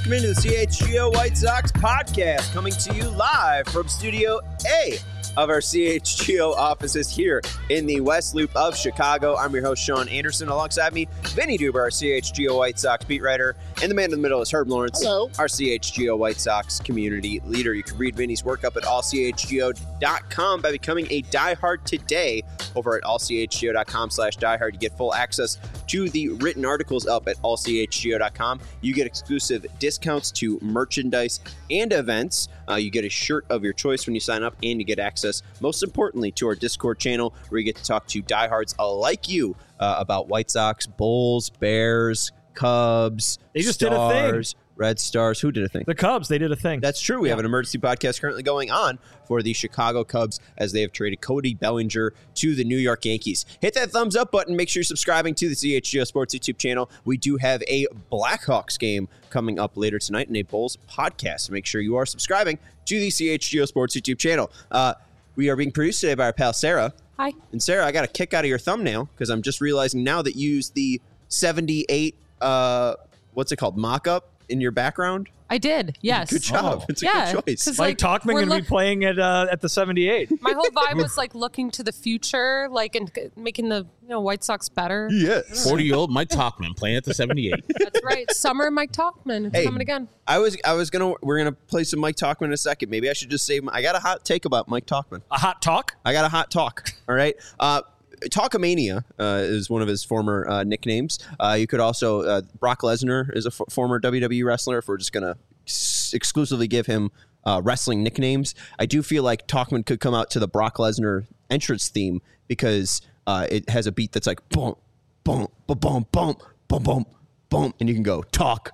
Welcome into the CHGO White Sox podcast, coming to you live from Studio A of our CHGO offices here in the West Loop of Chicago. I'm your host, Sean Anderson. Alongside me, Vinny Duber, our CHGO White Sox beat writer, and the man in the middle is Herb Lawrence, Hello. Our CHGO White Sox community leader. You can read Vinny's work up at allchgo.com by becoming a diehard today over at allchgo.com/diehard. You get full access to the written articles up at allchgo.com. You get exclusive discounts to merchandise and events. You get a shirt of your choice when you sign up, and you get access, most importantly, to our Discord channel where you get to talk to diehards like you about White Sox, Bulls, Bears, Cubs, They just Stars, did a thing. Red Stars. Who did a thing? The Cubs, they did a thing. That's true. We have an emergency podcast currently going on for the Chicago Cubs as they have traded Cody Bellinger to the New York Yankees. Hit that thumbs up button. Make sure you're subscribing to the CHGO Sports YouTube channel. We do have a Blackhawks game coming up later tonight and a Bulls podcast. Make sure you are subscribing to the CHGO Sports YouTube channel. We are being produced today by our pal Sarah. Hi. And Sarah, I got a kick out of your thumbnail because I'm just realizing now that you use the 78, what's it called, mock-up in your background. I did, yes. Good job. It's a good choice. 'cause, Mike Talkman going to be playing at the 78. My whole vibe was like looking to the future, like and making the White Sox better. Yes. 40-year-old Mike Talkman playing at the 78. That's right. Summer Mike Talkman. It's coming again. We're gonna play some Mike Talkman in a second. Maybe I should just say I got a hot take about Mike Talkman. A hot talk? I got a hot talk. All right. Talkamania is one of his former nicknames. You could also Brock Lesnar is a former WWE wrestler. If we're just gonna exclusively give him wrestling nicknames, I do feel like Talkman could come out to the Brock Lesnar entrance theme because it has a beat that's like boom, boom, boom, boom, boom, boom, boom, boom, and you can go talk.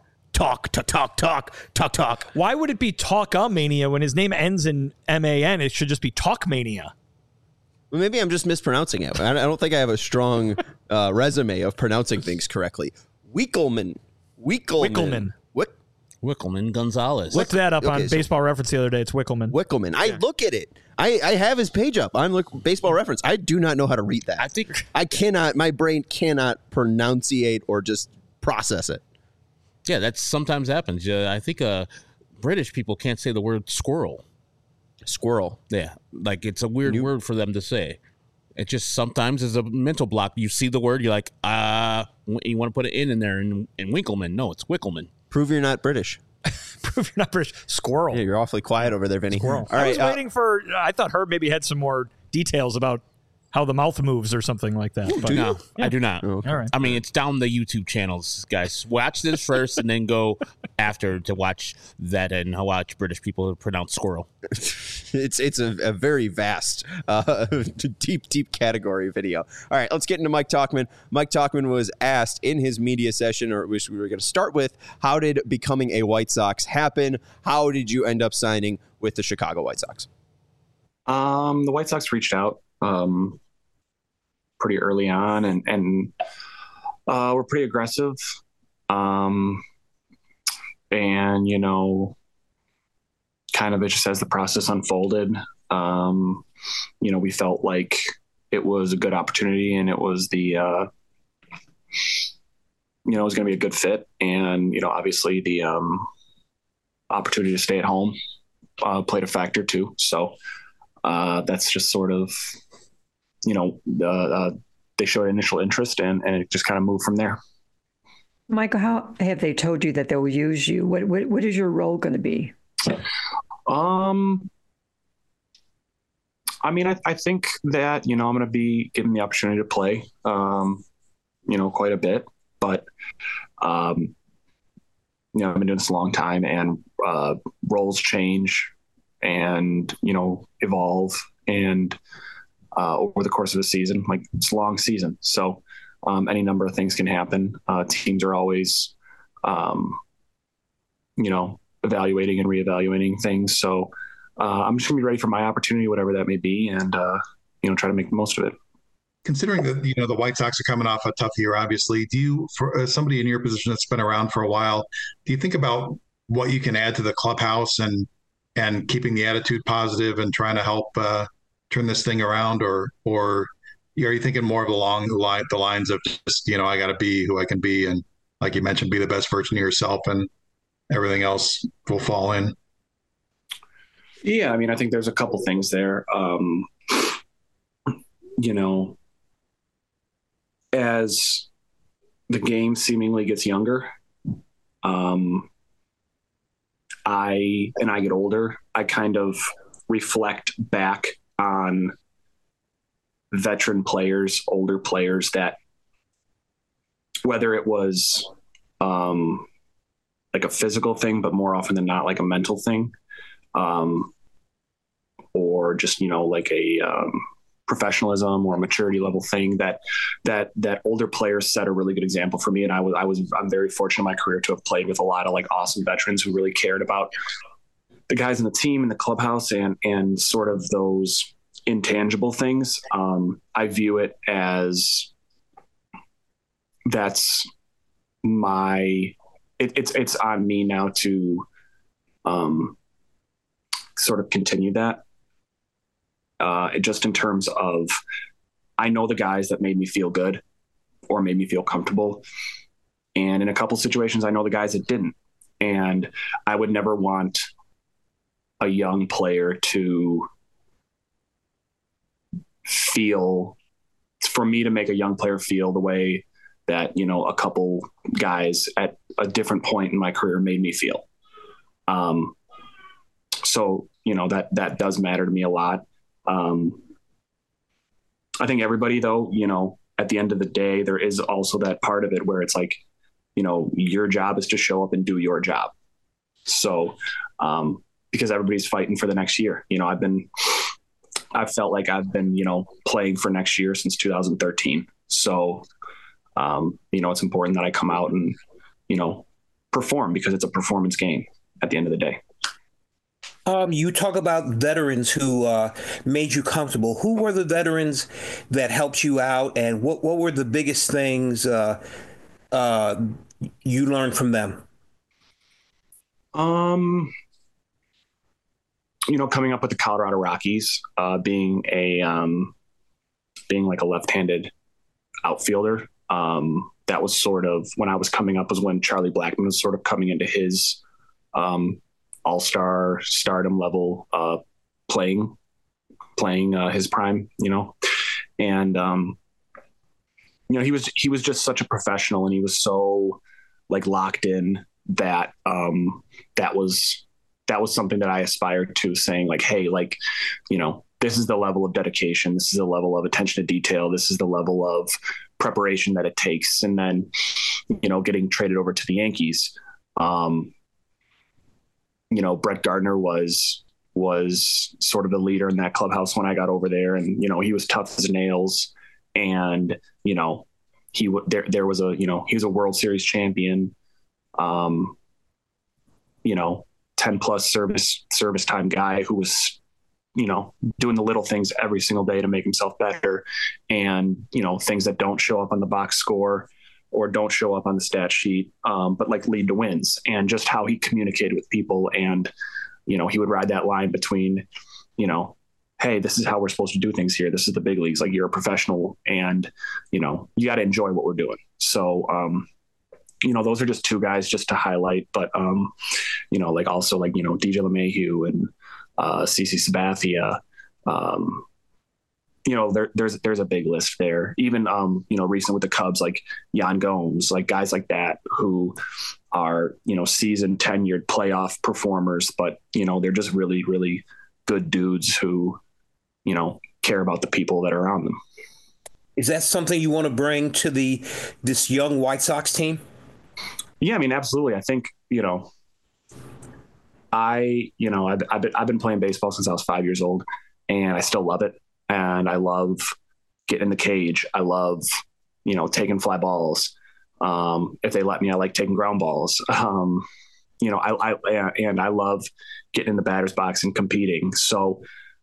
Why would it be Talkamania when his name ends in M-A-N? It should just be Talkmania. Well, maybe I'm just mispronouncing it. I don't think I have a strong resume of pronouncing things correctly. Wickelman. Wickelman Gonzalez. Looked that up on Baseball Reference the other day. It's Wickelman. Wickelman. I look at it. I have his page up on Baseball Reference. I do not know how to read that. I cannot. My brain cannot pronunciate or just process it. Yeah, that sometimes happens. I think British people can't say the word squirrel. Squirrel. Yeah, like it's a weird word for them to say. It just sometimes is a mental block. You see the word, you're like, you want to put it in there, and Winkleman. No, it's Wickelman. Prove you're not British. Prove you're not British. Squirrel. Yeah, you're awfully quiet over there, Vinny. Squirrel. All right, I was waiting for, I thought Herb maybe had some more details about how the mouth moves or something like that. But No, I do not. Oh, okay. All right. I mean, it's down the YouTube channels, guys. Watch this first and then go after to watch that and watch British people pronounce squirrel. It's a very vast, deep category video. All right, let's get into Mike Talkman. Mike Talkman was asked in his media session, or which we were going to start with, how did becoming a White Sox happen? How did you end up signing with the Chicago White Sox? The White Sox reached out pretty early on and were pretty aggressive. And, kind of just as the process unfolded, we felt like it was a good opportunity and it was it was going to be a good fit. And, obviously the opportunity to stay at home played a factor too. So that's just sort of, they showed initial interest and it just kind of moved from there. Michael, how have they told you that they will use you? What is your role going to be? I think that, I'm going to be given the opportunity to play, quite a bit, but, I've been doing this a long time and, roles change and, evolve and, over the course of a season, like it's a long season. So, any number of things can happen. Teams are always, evaluating and reevaluating things. So, I'm just gonna be ready for my opportunity, whatever that may be, and try to make the most of it. Considering that the White Sox are coming off a tough year, obviously, do you, for somebody in your position that's been around for a while, do you think about what you can add to the clubhouse and keeping the attitude positive and trying to help turn this thing around, or are you thinking more along the lines of just I got to be who I can be, and like you mentioned, be the best version of yourself and everything else will fall in? Yeah, I mean, I think there's a couple things there. You know, as the game seemingly gets younger, I get older, I kind of reflect back on veteran players, older players that, whether it was like a physical thing, but more often than not like a mental thing, or just, you know, like a professionalism or maturity level thing that older players set a really good example for me. And I'm very fortunate in my career to have played with a lot of like awesome veterans who really cared about the guys in the team and the clubhouse and sort of those intangible things. I view it as that's it's on me now to sort of continue that. Just in terms of, I know the guys that made me feel good or made me feel comfortable. And in a couple situations, I know the guys that didn't. And I would never want a young player to feel, for me to make a young player feel the way that, you know, a couple guys at a different point in my career made me feel. So, you know, that does matter to me a lot. I think everybody, though, you know, at the end of the day, there is also that part of it where it's like, you know, your job is to show up and do your job. So, because everybody's fighting for the next year, you know, I've felt like I've been, you know, playing for next year since 2013. So, you know, it's important that I come out and, you know, perform, because it's a performance game at the end of the day. You talk about veterans who made you comfortable. Who were the veterans that helped you out, and what were the biggest things you learned from them? You know, coming up with the Colorado Rockies, being like a left-handed outfielder. That was sort of when I was coming up, was when Charlie Blackmon was sort of coming into his all-star stardom level, playing his prime, you know, and you know, he was just such a professional, and he was so like locked in that that was something that I aspired to, saying like, hey, like, you know, this is the level of dedication, this is the level of attention to detail, this is the level of preparation that it takes. And then, you know, getting traded over to the Yankees, you know, Brett Gardner was sort of the leader in that clubhouse when I got over there. And, you know, he was tough as nails, and, you know, there was a, you know, he was a World Series champion, you know, 10 plus service time guy who was, you know, doing the little things every single day to make himself better. And, you know, things that don't show up on the box score or don't show up on the stat sheet, but like lead to wins, and just how he communicated with people. And, you know, he would ride that line between, you know, hey, this is how we're supposed to do things here. This is the big leagues. Like, you're a professional, and, you know, you got to enjoy what we're doing. So, you know, those are just two guys just to highlight, but, you know, like also like, you know, DJ LeMahieu and CC Sabathia, you know, there's a big list there. Even, you know, recent with the Cubs, like Yan Gomes, like guys like that who are, you know, seasoned, tenured playoff performers, but, you know, they're just really, really good dudes who, you know, care about the people that are around them. Is that something you want to bring to this young White Sox team? Yeah, I mean, absolutely. I think, you know, I've been playing baseball since I was 5 years old, and I still love it. And I love getting in the cage. I love, you know, taking fly balls. If they let me, I like taking ground balls. You know, I love getting in the batter's box and competing. So,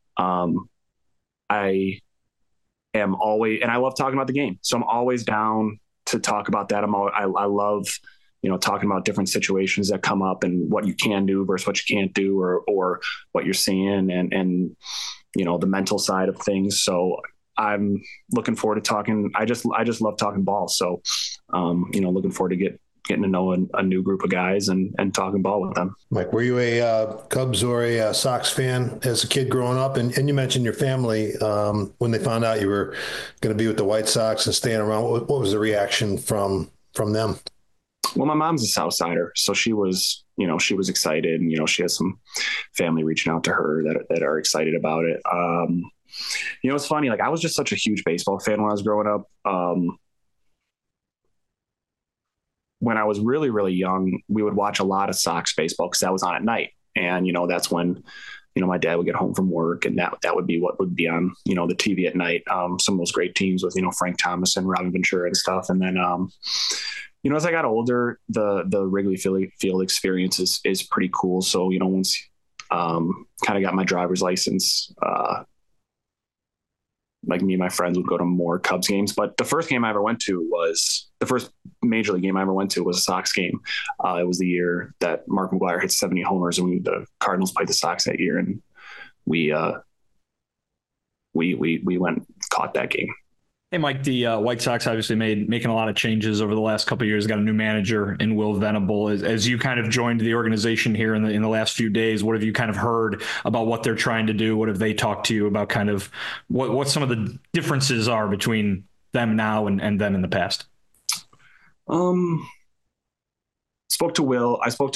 I am always, and I love talking about the game. So I'm always down to talk about that. I love, you know, talking about different situations that come up and what you can do versus what you can't do, or what you're seeing, and, you know, the mental side of things. So I'm looking forward to talking. I just love talking ball. So, you know, looking forward to get getting to know a new group of guys and talking ball with them. Mike, were you a Cubs or a Sox fan as a kid growing up? And you mentioned your family when they found out you were going to be with the White Sox and staying around. What was the reaction from them? Well, my mom's a South Sider, so she was excited, and she has some family reaching out to her that are excited about it. It's funny. Like, I was just such a huge baseball fan when I was growing up. When I was really, really young, we would watch a lot of Sox baseball because that was on at night. And, that's when, my dad would get home from work, and that would be what would be on, the TV at night. Some of those great teams with, Frank Thomas and Robin Ventura and stuff. And then, as I got older, the Wrigley Field experience is pretty cool. So, once kind of got my driver's license, like, me and my friends would go to more Cubs games. But the first game I ever went to the first major league game I ever went to was a Sox game. It was the year that Mark McGwire hit 70 homers, and the Cardinals played the Sox that year. And we went and caught that game. Hey, Mike, the White Sox obviously making a lot of changes over the last couple of years. Got a new manager in Will Venable. As you kind of joined the organization here in the last few days, what have you kind of heard about what they're trying to do? What have they talked to you about, kind of what some of the differences are between them now and them in the past? I spoke to Will.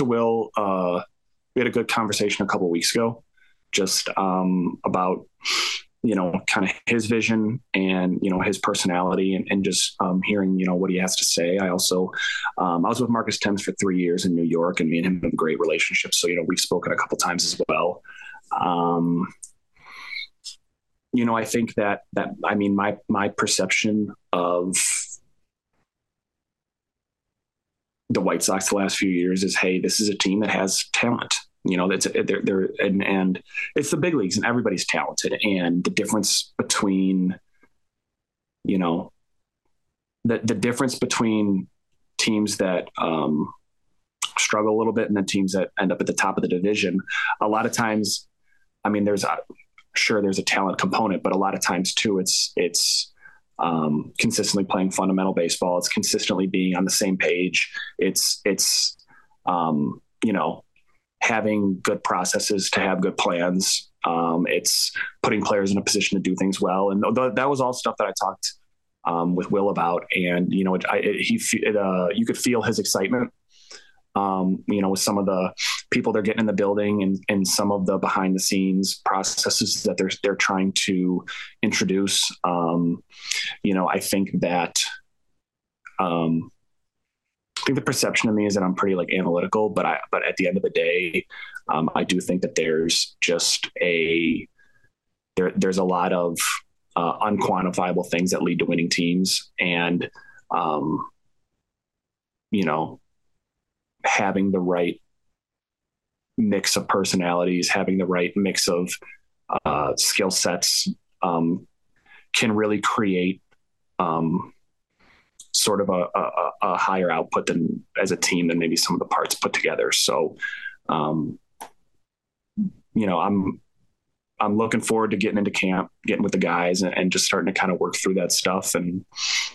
We had a good conversation a couple of weeks ago, just about kind of his vision and, his personality and just hearing, what he has to say. I also, I was with Marcus Thames for 3 years in New York, and me and him have a great relationship. So, we've spoken a couple times as well. I think that my perception of the White Sox the last few years is, hey, this is a team that has talent. They're and it's the big leagues, and everybody's talented. And the difference between, the difference between teams that struggle a little bit and the teams that end up at the top of the division, a lot of times, there's a talent component, but a lot of times too, it's consistently playing fundamental baseball. It's consistently being on the same page. It's having good processes to have good plans. It's putting players in a position to do things well. And that was all stuff that I talked with Will about. And, you could feel his excitement, with some of the people they're getting in the building and some of the behind the scenes processes that they're trying to introduce. I think that, I think the perception of me is that I'm pretty analytical, but at the end of the day, I do think that there's just there's a lot of unquantifiable things that lead to winning teams. And, having the right mix of personalities, having the right mix of skill sets can really create sort of a higher output than as a team than maybe some of the parts put together. So, I'm looking forward to getting into camp, getting with the guys and just starting to kind of work through that stuff. And,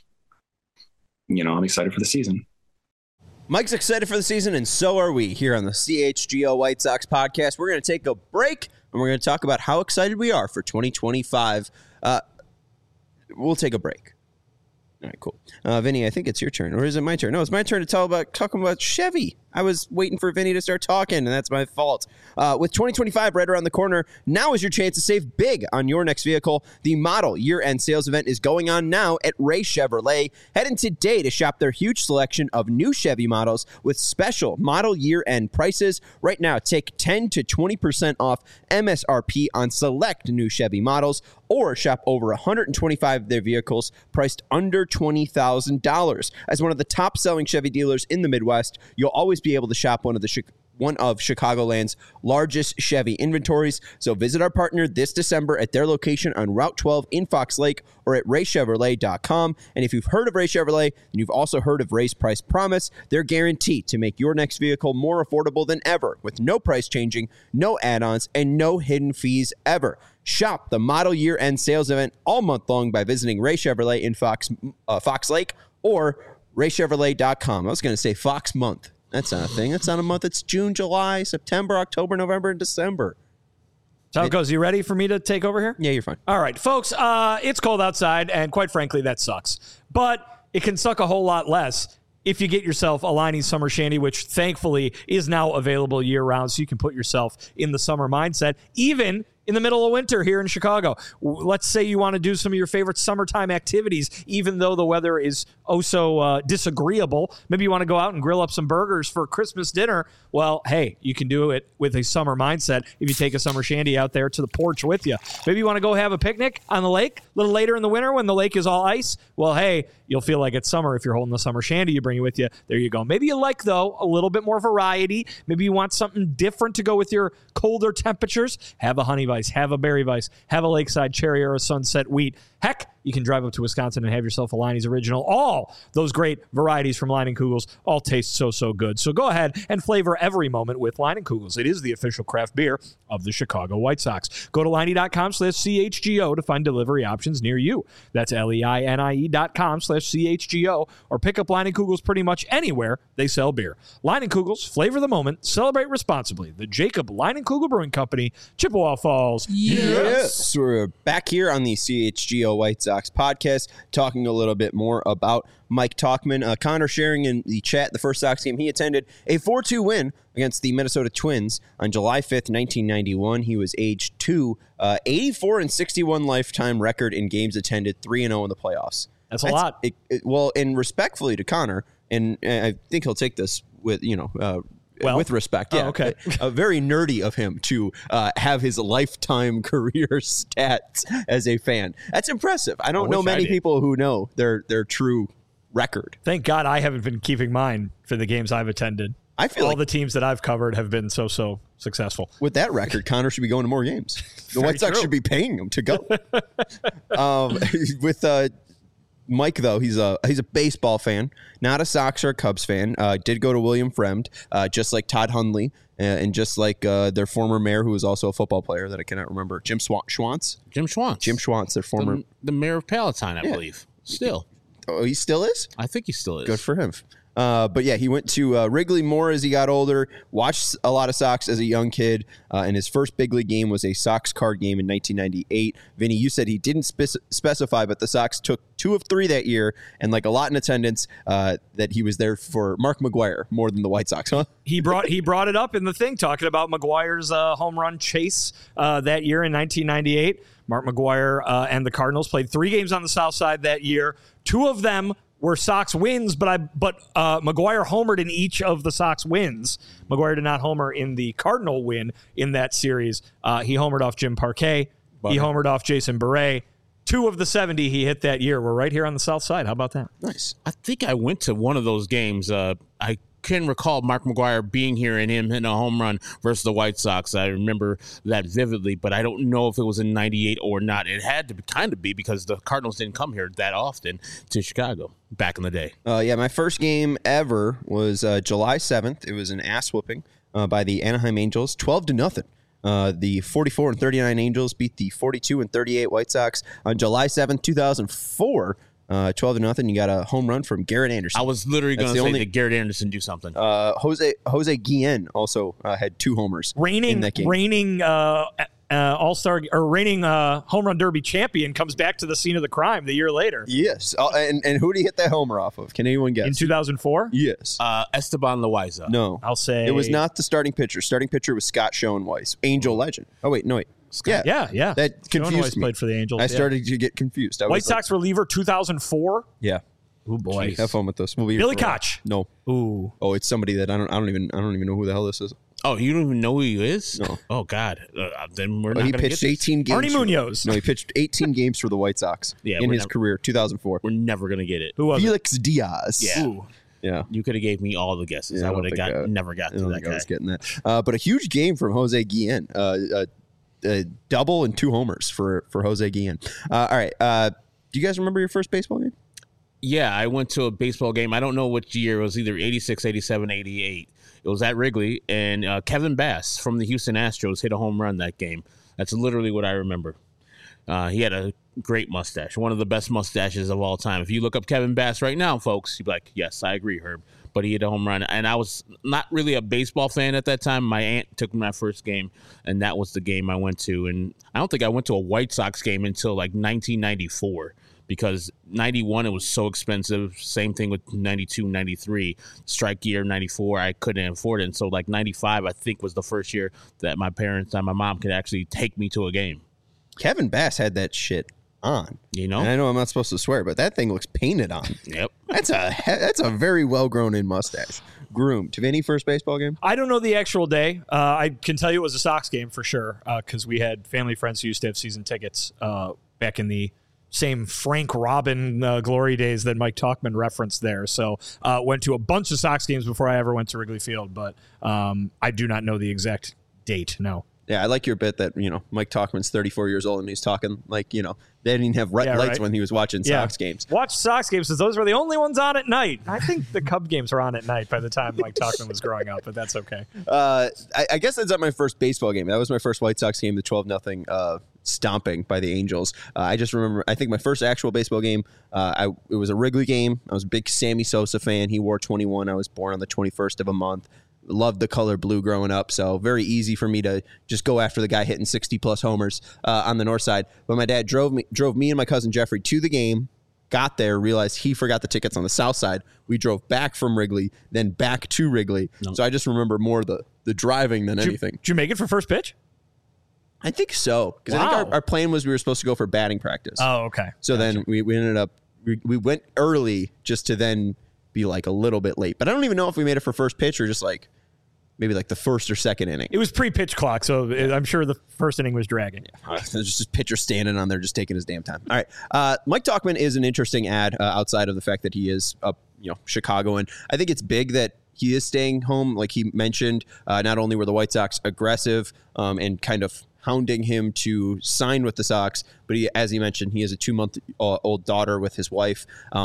I'm excited for the season. Mike's excited for the season, and so are we here on the CHGO White Sox podcast. We're going to take a break, and we're going to talk about how excited we are for 2025. We'll take a break. All right, cool. Vinny, I think it's your turn. Or is it my turn? No, it's my turn to talking about Chevy. I was waiting for Vinny to start talking, and that's my fault. With 2025 right around the corner, now is your chance to save big on your next vehicle. The model year-end sales event is going on now at Ray Chevrolet. Head in today to shop their huge selection of new Chevy models with special model year-end prices. Right now, take 10 to 20% off MSRP on select new Chevy models, or shop over 125 of their vehicles priced under $20,000. As one of the top-selling Chevy dealers in the Midwest, you'll always be able to shop one of Chicagoland's largest Chevy inventories. So visit our partner this December at their location on Route 12 in Fox Lake or at raychevrolet.com. And if you've heard of Ray Chevrolet, then you've also heard of Ray's Price Promise. They're guaranteed to make your next vehicle more affordable than ever, with no price changing, no add-ons, and no hidden fees ever. Shop the model year-end sales event all month long by visiting Ray Chevrolet in Fox Lake or RayChevrolet.com. I was going to say Fox month. That's not a thing. That's not a month. It's June, July, September, October, November, and December. So how it goes. You ready for me to take over here? Yeah, you're fine. All right, folks. It's cold outside, and quite frankly, that sucks. But it can suck a whole lot less if you get yourself a Leinie's Summer Shandy, which thankfully is now available year-round, so you can put yourself in the summer mindset, even in the middle of winter here in Chicago. Let's say you want to do some of your favorite summertime activities, even though the weather is so disagreeable. Maybe you want to go out and grill up some burgers for Christmas dinner. Well, hey, you can do it with a summer mindset if you take a Summer Shandy out there to the porch with you. Maybe you want to go have a picnic on the lake a little later in the winter when the lake is all ice. Well, hey, you'll feel like it's summer if you're holding the Summer Shandy. You bring it with you. There you go. Maybe you like, though, a little bit more variety. Maybe you want something different to go with your colder temperatures. Have a Honey Vice, have a Berry Vice, have a Lakeside Cherry or a Sunset Wheat. Heck, you can drive up to Wisconsin and have yourself a Leinie's Original. All those great varieties from Leinenkugels all taste so good. So go ahead and flavor every moment with Leinenkugels. It is the official craft beer of the Chicago White Sox. Go to Leinie.com/CHGO to find delivery options near you. That's LEINIE.com/CHGO, or pick up Leinenkugels pretty much anywhere they sell beer. Leinenkugels, flavor the moment, celebrate responsibly. The Jacob Leinenkugel Brewing Company, Chippewa Falls. Yes. We're back here on the CHGO White Sox podcast, talking a little bit more about Mike Tauchman. Connor sharing in the chat the first Sox game he attended, a 4-2 win against the Minnesota Twins on July 5th, 1991. He was age 2, 84-61 lifetime record in games attended, 3-0 in the playoffs. That's a lot. Well, and respectfully to Connor, and I think he'll take this with, with respect. Yeah. Oh, okay. Very nerdy of him to have his lifetime career stats as a fan. That's impressive. I don't know many people who know their true record. Thank God I haven't been keeping mine for the games I've attended. I feel all like the teams that I've covered have been so successful. With that record, Connor should be going to more games. The White Sox should be paying him to go. With Mike, though, he's a baseball fan, not a Sox or a Cubs fan. Did go to William Fremd, just like Todd Hundley, and just like their former mayor, who was also a football player that I cannot remember, Jim Schwantz. Jim Schwantz, their former the mayor of Palatine, I believe. Still, he still is. I think he still is. Good for him. But yeah, he went to Wrigley more as he got older, watched a lot of Sox as a young kid, and his first big league game was a Sox card game in 1998. Vinny, you said he didn't specify, but the Sox took 2 of 3 that year, and like a lot in attendance, that he was there for Mark McGwire more than the White Sox, huh? He brought it up in the thing, talking about McGwire's home run chase that year in 1998. Mark McGwire and the Cardinals played 3 games on the South Side that year. 2 of them were Sox wins, but McGwire homered in each of the Sox wins. McGwire did not homer in the Cardinal win in that series. He homered off Jim Parquet. He homered off Jason Beret. 2 of the 70 he hit that year were right here on the South Side. How about that? Nice. I think I went to one of those games. I can recall Mark McGwire being here and him hitting a home run versus the White Sox. I remember that vividly, but I don't know if it was in 98 or not. It had to kind of be because the Cardinals didn't come here that often to Chicago back in the day. Yeah, my first game ever was July 7th. It was an ass whooping by the Anaheim Angels, 12-0. The 44-39 Angels beat the 42-38 White Sox on July 7th, 2004. 12-0. You got a home run from Garrett Anderson. I was literally going to say that Garrett Anderson do something. Jose Guillen also had 2 homers. Reigning All-Star or reigning home run derby champion comes back to the scene of the crime the year later. Yes. And who did he hit that homer off of? Can anyone guess? In 2004? Yes. Esteban Loaiza. No. I'll say it was not the starting pitcher. Starting pitcher was Scott Schoenweiss, Angel legend. Oh, wait. No, wait. Scott. Yeah. That confused me. Played for the Angels. I started to get confused. White Sox reliever 2004. Yeah. Oh boy. Have fun with this. We'll be Billy Koch. No. Ooh. Oh, it's somebody that I don't even know who the hell this is. Oh, you don't even know who he is? No. Oh God. Then we're not. He pitched 18 games. Arnie Munoz. No, he pitched 18 games for the White Sox in his career, 2004. We're never gonna get it. Who was Felix Diaz. Yeah. Ooh. Yeah. You could have gave me all the guesses. I would have never got to that guy. I was getting that. But a huge game from Jose Guillen. A double and 2 homers for Jose Guillen. All right. Do you guys remember your first baseball game? Yeah, I went to a baseball game. I don't know which year. It was either 86, 87, 88. It was at Wrigley, and Kevin Bass from the Houston Astros hit a home run that game. That's literally what I remember. He had a great mustache, one of the best mustaches of all time. If you look up Kevin Bass right now, folks, you'd be like, yes, I agree, Herb. But he hit a home run. And I was not really a baseball fan at that time. My aunt took me my first game, and that was the game I went to. And I don't think I went to a White Sox game until like 1994, because 91, it was so expensive. Same thing with 92, 93. Strike year, 94, I couldn't afford it. And so like 95, I think, was the first year that my parents and my mom could actually take me to a game. Kevin Bass had that shit on, you know. And I know I'm not supposed to swear, but that thing looks painted on. Yep, that's a very well grown in mustache, groomed. Vinny, first baseball game? I don't know the actual day. I can tell you it was a Sox game for sure, because we had family friends who used to have season tickets back in the same Frank Robin glory days that Mike Talkman referenced there. So went to a bunch of Sox games before I ever went to Wrigley Field, but I do not know the exact date. No. Yeah, I like your bit that, Mike Talkman's 34 years old and he's talking like, they didn't even have lights right when he was watching Sox games. Watch Sox games because those were the only ones on at night. I think the Cub games were on at night by the time Mike Talkman was growing up, but that's okay. I guess that's not my first baseball game. That was my first White Sox game, the 12-0 stomping by the Angels. I just remember, I think my first actual baseball game, it was a Wrigley game. I was a big Sammy Sosa fan. He wore 21. I was born on the 21st of a month. Loved the color blue growing up, so very easy for me to just go after the guy hitting 60-plus homers on the north side. But my dad drove me and my cousin Jeffrey to the game, got there, realized he forgot the tickets on the south side. We drove back from Wrigley, then back to Wrigley. No. So I just remember more the driving than anything. Did you make it for first pitch? I think so, because I think our plan was we were supposed to go for batting practice. Oh, okay. So then we ended up, we went early just to then be like a little bit late. But I don't even know if we made it for first pitch or just like, maybe like the first or second inning. It was pre-pitch clock, so I'm sure the first inning was dragging. There's just a pitcher standing on there just taking his damn time. All right. Mike Talkman is an interesting ad outside of the fact that he is Chicagoan. I think it's big that he is staying home. Like he mentioned, not only were the White Sox aggressive and kind of hounding him to sign with the Sox, but as he mentioned, he has a 2-month-old daughter with his wife.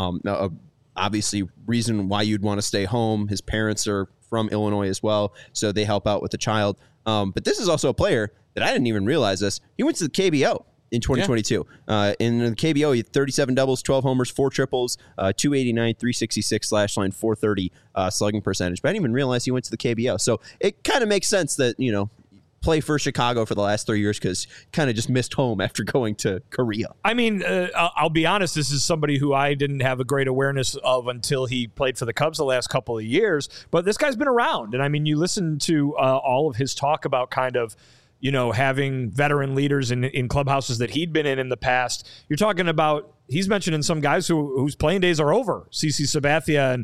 Obviously, reason why you'd want to stay home. His parents are from Illinois as well, so they help out with the child. But this is also a player that I didn't even realize this. He went to the KBO in 2022. In the KBO, he had 37 doubles, 12 homers, 4 triples, 289, 366 slash line, 430 slugging percentage. But I didn't even realize he went to the KBO. So it kind of makes sense that, play for Chicago for the last 3 years because kind of just missed home after going to Korea. I mean, I'll be honest, this is somebody who I didn't have a great awareness of until he played for the Cubs the last couple of years, but this guy's been around. And I mean, you listen to all of his talk about kind of, having veteran leaders in clubhouses that he'd been in the past. You're talking about, he's mentioning some guys whose playing days are over. CC Sabathia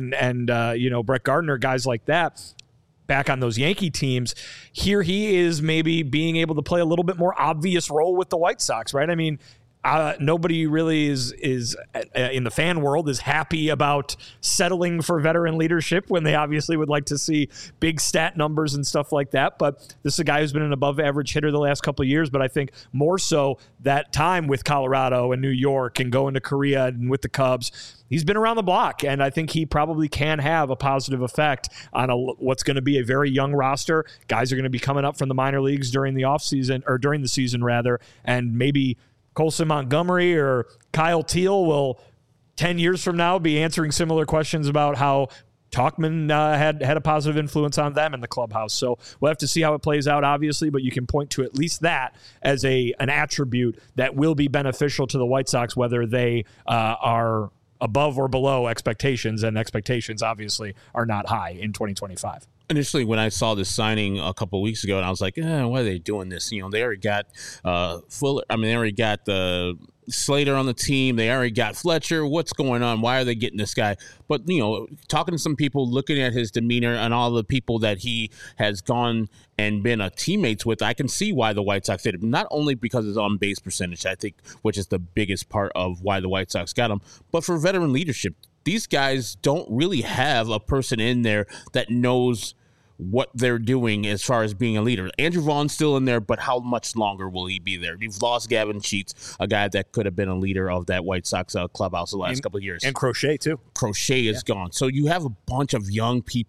and Brett Gardner, guys like that. Back on those Yankee teams, here he is maybe being able to play a little bit more obvious role with the White Sox, right? I mean, nobody really is in the fan world is happy about settling for veteran leadership when they obviously would like to see big stat numbers and stuff like that. But this is a guy who's been an above average hitter the last couple of years. But I think more so that time with Colorado and New York and going to Korea and with the Cubs, he's been around the block, and I think he probably can have a positive effect on what's going to be a very young roster. Guys are going to be coming up from the minor leagues during the offseason, or during the season rather, and maybe Colson Montgomery or Kyle Teal will 10 years from now be answering similar questions about how Talkman had a positive influence on them in the clubhouse. So we'll have to see how it plays out, obviously, but you can point to at least that as an attribute that will be beneficial to the White Sox, whether they are above or below expectations, and expectations obviously are not high in 2025. Initially, when I saw this signing a couple of weeks ago, and I was like, why are they doing this? They already got Fuller. I mean, they already got the Slater on the team. They already got Fletcher. What's going on? Why are they getting this guy? But, talking to some people, looking at his demeanor and all the people that he has gone and been teammates with, I can see why the White Sox did it. Not only because of his on-base percentage, I think, which is the biggest part of why the White Sox got him, but for veteran leadership. These guys don't really have a person in there that knows what they're doing as far as being a leader. Andrew Vaughn's still in there, but how much longer will he be there? You've lost Gavin Sheets, a guy that could have been a leader of that White Sox clubhouse the last couple of years. And Crochet, too. Crochet is gone. So you have a bunch of young people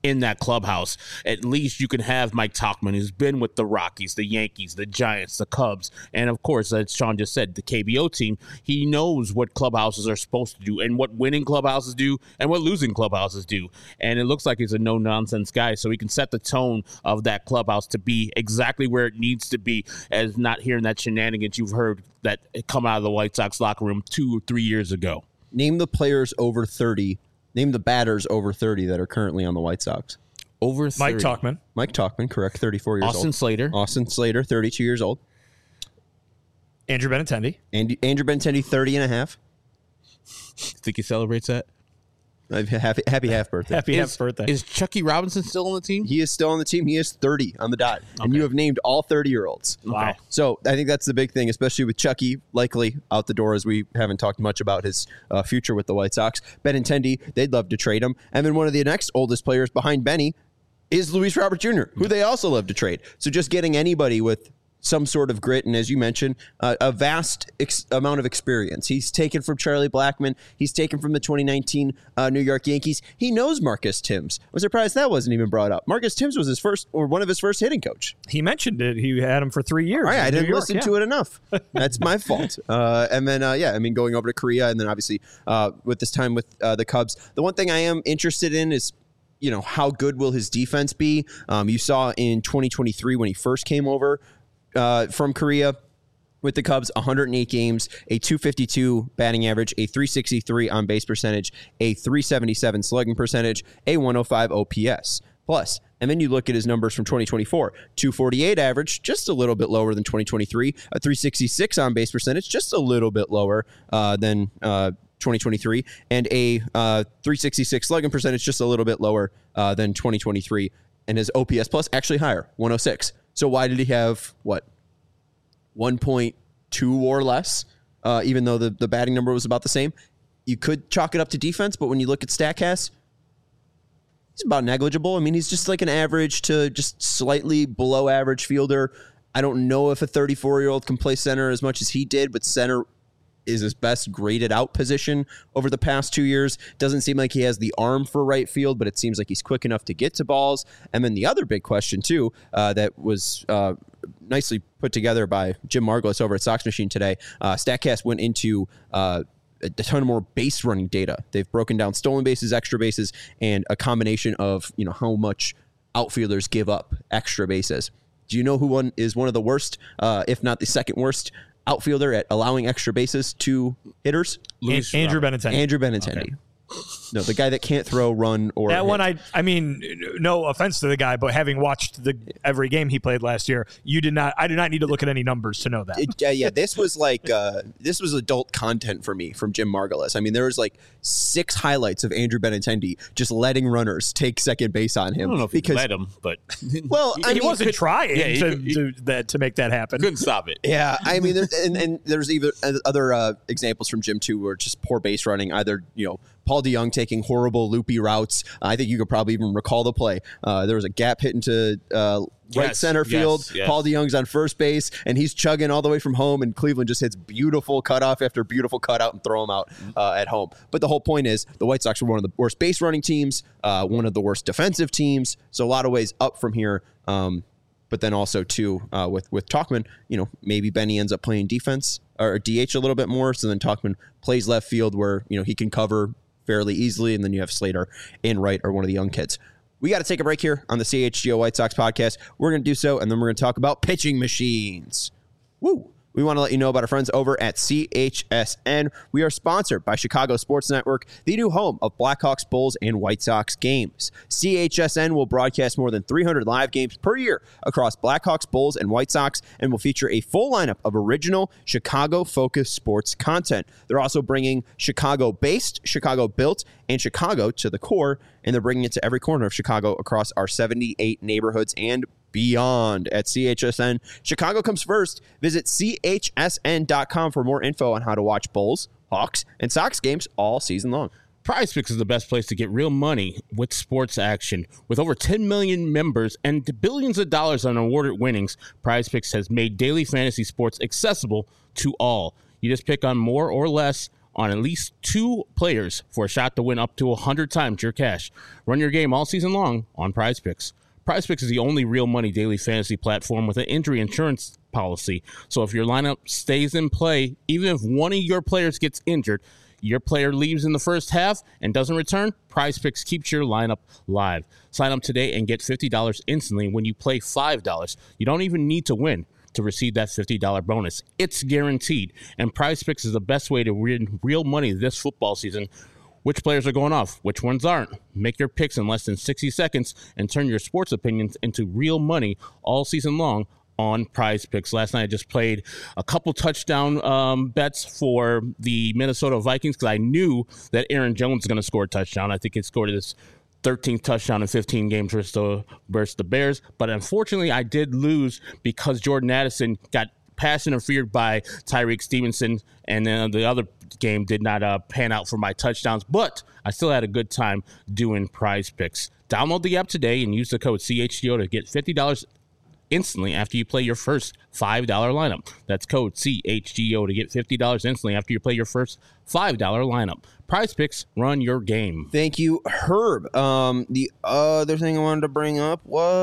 in that clubhouse. At least you can have Mike Tauchman, who's been with the Rockies, the Yankees, the Giants, the Cubs, and of course, as Sean just said, the KBO team. He knows what clubhouses are supposed to do and what winning clubhouses do and what losing clubhouses do. And it looks like he's a no-nonsense guy, so he can set the tone of that clubhouse to be exactly where it needs to be, as not hearing that shenanigans you've heard that come out of the White Sox locker room 2 or 3 years ago. Name the players over 30. Name the batters over 30 that are currently on the White Sox. Over 30. Mike Tauchman, correct, 34 years old. Austin Slater, 32 years old. Andrew Benintendi. Andrew Benintendi, 30 and a half. Think he celebrates that? Happy half birthday. Half birthday. Is Chucky Robinson still on the team? He is still on the team. He is 30 on the dot. Okay. And you have named all 30-year-olds. Wow. So I think that's the big thing, especially with Chucky likely out the door, as we haven't talked much about his future with the White Sox. Benintendi, they'd love to trade him. And then one of the next oldest players behind Benny is Luis Robert Jr., who they also love to trade. So just getting anybody with some sort of grit, and as you mentioned, a vast amount of experience. He's taken from Charlie Blackmon. He's taken from the 2019 New York Yankees. He knows Marcus Thames. I'm surprised that wasn't even brought up. Marcus Thames was one of his first hitting coach. He mentioned it. He had him for 3 years. All right, I didn't listen to it enough. That's my fault. And then, going over to Korea, and then obviously with this time with the Cubs. The one thing I am interested in is, how good will his defense be? You saw in 2023 when he first came over from Korea with the Cubs, 108 games, a 252 batting average, a 363 on base percentage, a 377 slugging percentage, a 105 OPS. Plus, and then you look at his numbers from 2024, 248 average, just a little bit lower than 2023, a 366 on base percentage, just a little bit lower than 2023, and a 366 slugging percentage, just a little bit lower than 2023, and his OPS plus actually higher, 106. So why did he have, 1.2 or less, even though the batting number was about the same? You could chalk it up to defense, but when you look at StatCast, he's about negligible. I mean, he's just like an average to just slightly below average fielder. I don't know if a 34-year-old can play center as much as he did, but center is his best graded out position over the past 2 years. Doesn't seem like he has the arm for right field, but it seems like he's quick enough to get to balls. And then the other big question, too, that was nicely put together by Jim Margulis over at Sox Machine today. StatCast went into a ton more base running data. They've broken down stolen bases, extra bases, and a combination of how much outfielders give up extra bases. Do you know who is one of the worst, if not the second worst, outfielder at allowing extra bases to hitters? Andrew Benintendi. Andrew Benintendi. Okay. No, the guy that can't throw, run, or that hit. one. I mean, no offense to the guy, but having watched every game he played last year, I did not need to look at any numbers to know that. This was like this was adult content for me from Jim Margulis. I mean, there was like 6 highlights of Andrew Benintendi just letting runners take second base on him. I don't know if he let him, but he wasn't trying to make that happen. Couldn't stop it. Yeah, I mean, there's even other examples from Jim too, where just poor base running. Either Paul DeJong taking horrible loopy routes. I think you could probably even recall the play. There was a gap hit into right center field. Yes. Paul DeJong's on first base, and he's chugging all the way from home, and Cleveland just hits beautiful cutoff after beautiful cutout and throw him out at home. But the whole point is the White Sox were one of the worst base running teams, one of the worst defensive teams, so a lot of ways up from here. But then also, too, with Tauchman, maybe Benny ends up playing defense or DH a little bit more, so then Tauchman plays left field where, he can cover fairly easily, and then you have Slater in right or one of the young kids. We got to take a break here on the CHGO White Sox podcast. We're going to do so, and then we're going to talk about pitching machines. Woo! We want to let you know about our friends over at CHSN. We are sponsored by Chicago Sports Network, the new home of Blackhawks, Bulls, and White Sox games. CHSN will broadcast more than 300 live games per year across Blackhawks, Bulls, and White Sox, and will feature a full lineup of original Chicago-focused sports content. They're also bringing Chicago-based, Chicago-built, and Chicago to the core, and they're bringing it to every corner of Chicago across our 78 neighborhoods and beyond. At CHSN, Chicago comes first. Visit chsn.com for more info on how to watch Bulls, Hawks, and Sox games all season long. PrizePicks is the best place to get real money with sports action. With over 10 million members and billions of dollars on awarded winnings, PrizePicks has made daily fantasy sports accessible to all. You just pick on more or less on at least 2 players for a shot to win up to 100 times your cash. Run your game all season long on Prize Picks. Prize Picks is the only real money daily fantasy platform with an injury insurance policy. So if your lineup stays in play, even if one of your players gets injured, your player leaves in the first half and doesn't return, Prize Picks keeps your lineup live. Sign up today and get $50 instantly when you play $5. You don't even need to win to receive that $50 bonus. It's guaranteed. And Prize Picks is the best way to win real money this football season. Which players are going off? Which ones aren't? Make your picks in less than 60 seconds and turn your sports opinions into real money all season long on Prize Picks. Last night I just played a couple touchdown bets for the Minnesota Vikings because I knew that Aaron Jones was going to score a touchdown. I think he scored his 13th touchdown in 15 games versus the Bears. But unfortunately, I did lose because Jordan Addison got pass interfered by Tyreek Stevenson, and then the other game did not pan out for my touchdowns. But I still had a good time doing Prize Picks. Download the app today and use the code CHGO to get $50 instantly after you play your first $5 lineup. That's code CHGO to get $50 instantly after you play your first $5 lineup. Prize Picks, run your game. Thank you, Herb. The other thing I wanted to bring up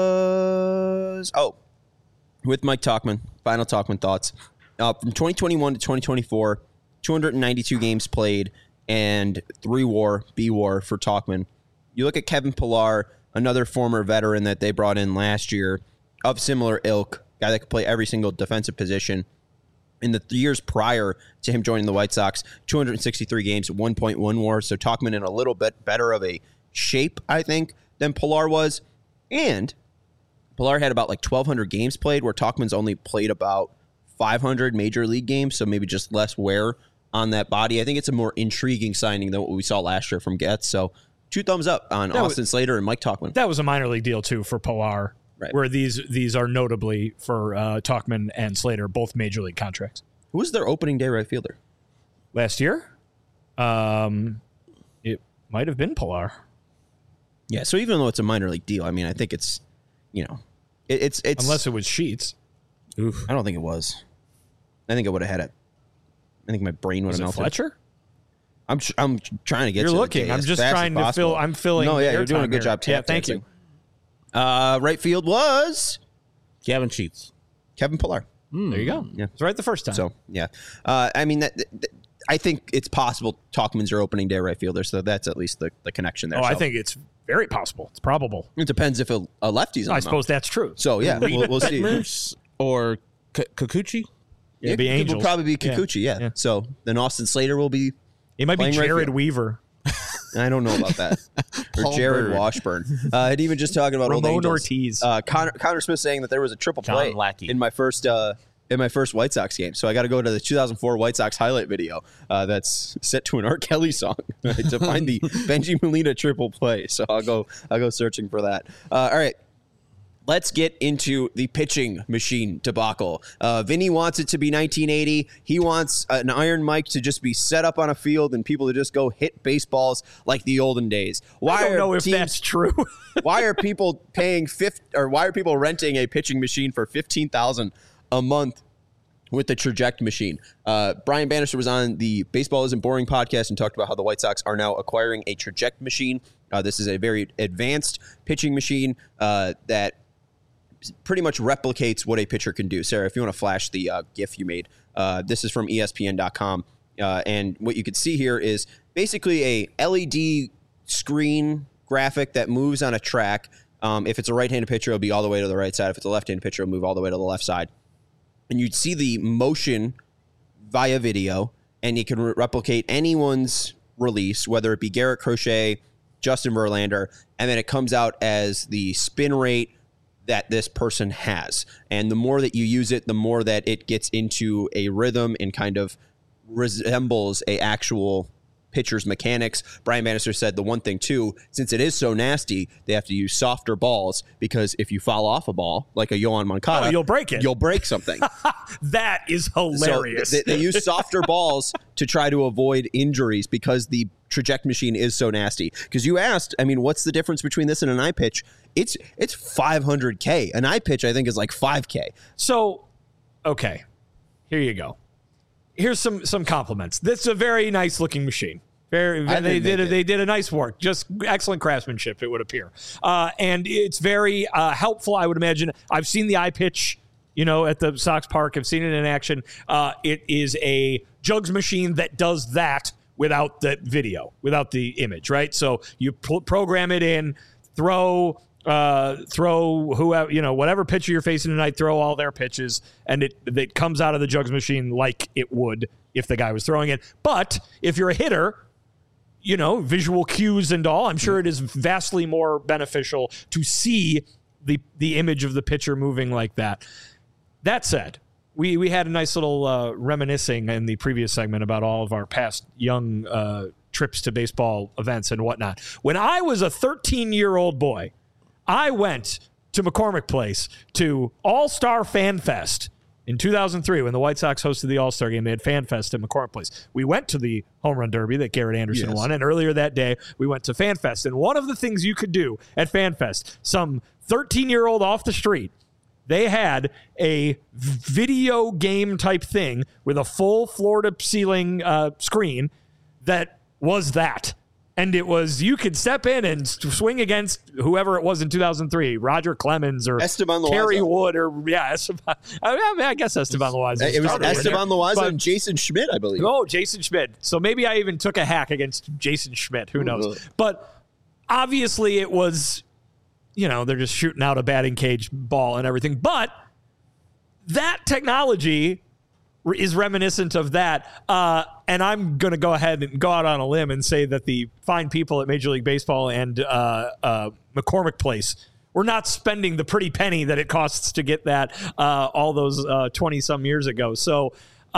was, with Mike Tauchman, final Tauchman thoughts. From 2021 to 2024, 292 games played and 3 B-WAR for Tauchman. You look at Kevin Pillar, another former veteran that they brought in last year, of similar ilk, guy that could play every single defensive position. In the years prior to him joining the White Sox, 263 games, 1.1 WAR. So Tauchman in a little bit better of a shape, I think, than Pillar was. And Pillar had about 1,200 games played, where Tauchman's only played about 500 major league games, so maybe just less wear on that body. I think it's a more intriguing signing than what we saw last year from Getz. So 2 thumbs up on Austin Slater and Mike Tauchman. That was a minor league deal, too, for Pillar. Right. Where these are notably for Tauchman and Slater, both major league contracts. Who was their opening day right fielder last year? It might have been Pillar. Yeah, so even though it's a minor league deal, I mean, I think it's, it's unless it was Sheets. Oof. I don't think it was. I think I would have had it. I think my brain would have melted. Fletcher? I'm trying to get. You're looking. I'm just trying to fill. I'm filling. No, yeah, you're doing a good job. Yeah, thank you. Right field was Gavin Sheets. Kevin Pillar. There you go. Yeah, it's right the first time. So yeah, I mean I think it's possible Tauchman's your opening day right fielder, so that's at least the connection there. I think it's very possible. It's probable. It depends if a lefty's on. I suppose that's true. So yeah, we'll see. Or Kikuchi. Yeah, it'd be Angels. It will probably be Kikuchi. Yeah. So then Austin Slater will be. It might be Jared Weaver. I don't know about that. Or Jared Washburn. And even just talking about Ramon old Angels. Ortiz. Connor Smith saying that there was a triple play in my first White Sox game. So I got to go to the 2004 White Sox highlight video that's set to an R. Kelly song to find the Benji Molina triple play. So I'll go searching for that. All right. Let's get into the pitching machine debacle. Vinny wants it to be 1980. He wants an iron mic to just be set up on a field and people to just go hit baseballs like the olden days. I don't know if that's true. Why are people why are people renting a pitching machine for $15,000 a month with the Traject machine? Brian Bannister was on the Baseball Isn't Boring podcast and talked about how the White Sox are now acquiring a Traject machine. This is a very advanced pitching machine that pretty much replicates what a pitcher can do. Sarah, if you want to flash the GIF you made, this is from ESPN.com. And what you can see here is basically a LED screen graphic that moves on a track. If it's a right-handed pitcher, it'll be all the way to the right side. If it's a left-handed pitcher, it'll move all the way to the left side. And you'd see the motion via video, and you can replicate anyone's release, whether it be Garrett Crochet, Justin Verlander, and then it comes out as the spin rate that this person has. And the more that you use it, the more that it gets into a rhythm and kind of resembles a actual pitcher's mechanics. Brian Bannister said the one thing too, since it is so nasty, they have to use softer balls because if you foul off a ball like a Yohan Moncada, you'll break it. You'll break something. That is hilarious. So they use softer balls to try to avoid injuries because the Traject machine is so nasty. Because you asked, I mean, what's the difference between this and an iPitch? It's $500K. An iPitch, I think, is like $5K. So, okay, here you go. here's some compliments. This is a very nice looking machine. They did a nice work, just excellent craftsmanship, it would appear. And it's very helpful, I would imagine. I've seen the iPitch, at the Sox Park. I've seen it in action. It is a jugs machine that does that without the video, without the image, right? So you program it in, throw whoever, whatever pitcher you're facing tonight, throw all their pitches, and it comes out of the jugs machine like it would if the guy was throwing it. But if you're a hitter, visual cues and all, I'm sure it is vastly more beneficial to see the image of the pitcher moving like that. That said, we had a nice little reminiscing in the previous segment about all of our past young trips to baseball events and whatnot. When I was a 13-year-old boy, I went to McCormick Place to All-Star Fan Fest in 2003, when the White Sox hosted the All-Star Game. They had Fan Fest at McCormick Place. We went to the Home Run Derby that Garrett Anderson won, and earlier that day, we went to Fan Fest. And one of the things you could do at Fan Fest, some 13-year-old off the street, they had a video game type thing with a full floor-to-ceiling screen that was that. And it was, you could step in and swing against whoever it was in 2003, Roger Clemens or Esteban Loaiza. Kerry Wood Esteban. I guess Esteban Loaiza. It was Esteban Loaiza and Jason Schmidt, I believe. Oh, Jason Schmidt. So maybe I even took a hack against Jason Schmidt. Who knows? But obviously it was, they're just shooting out a batting cage ball and everything. But that technology is reminiscent of that. And I'm going to go ahead and go out on a limb and say that the fine people at Major League Baseball and McCormick Place were not spending the pretty penny that it costs to get that all those 20-some years ago. So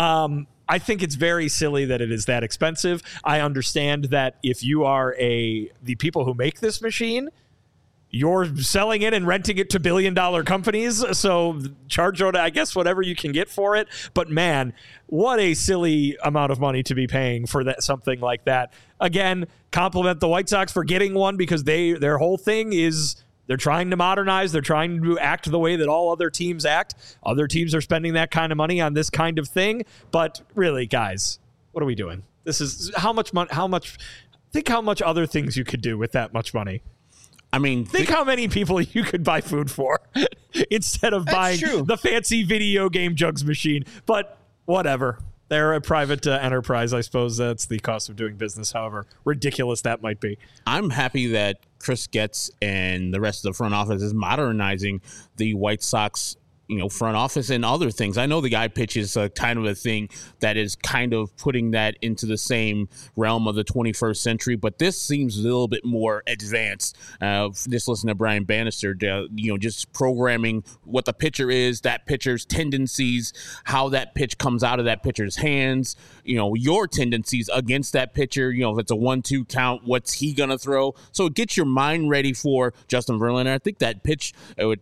I think it's very silly that it is that expensive. I understand that if you are the people who make this machine, you're selling it and renting it to billion-dollar companies, so charge out, I guess, whatever you can get for it. But man, what a silly amount of money to be paying for something like that. Again, compliment the White Sox for getting one, because their whole thing is they're trying to modernize. They're trying to act the way that all other teams act. Other teams are spending that kind of money on this kind of thing. But really, guys, what are we doing? This is how much money? Think how much other things you could do with that much money. I mean, think how many people you could buy food for instead of buying the fancy video game jugs machine. But whatever. They're a private enterprise. I suppose that's the cost of doing business, however ridiculous that might be. I'm happy that Chris Getz and the rest of the front office is modernizing the White Sox front office and other things. I know the iPitch is kind of a thing that is kind of putting that into the same realm of the 21st century, but this seems a little bit more advanced. Just listen to Brian Bannister, just programming what the pitcher is, that pitcher's tendencies, how that pitch comes out of that pitcher's hands, your tendencies against that pitcher, if it's a 1-2 count, what's he going to throw? So it gets your mind ready for Justin Verlander. I think that pitch,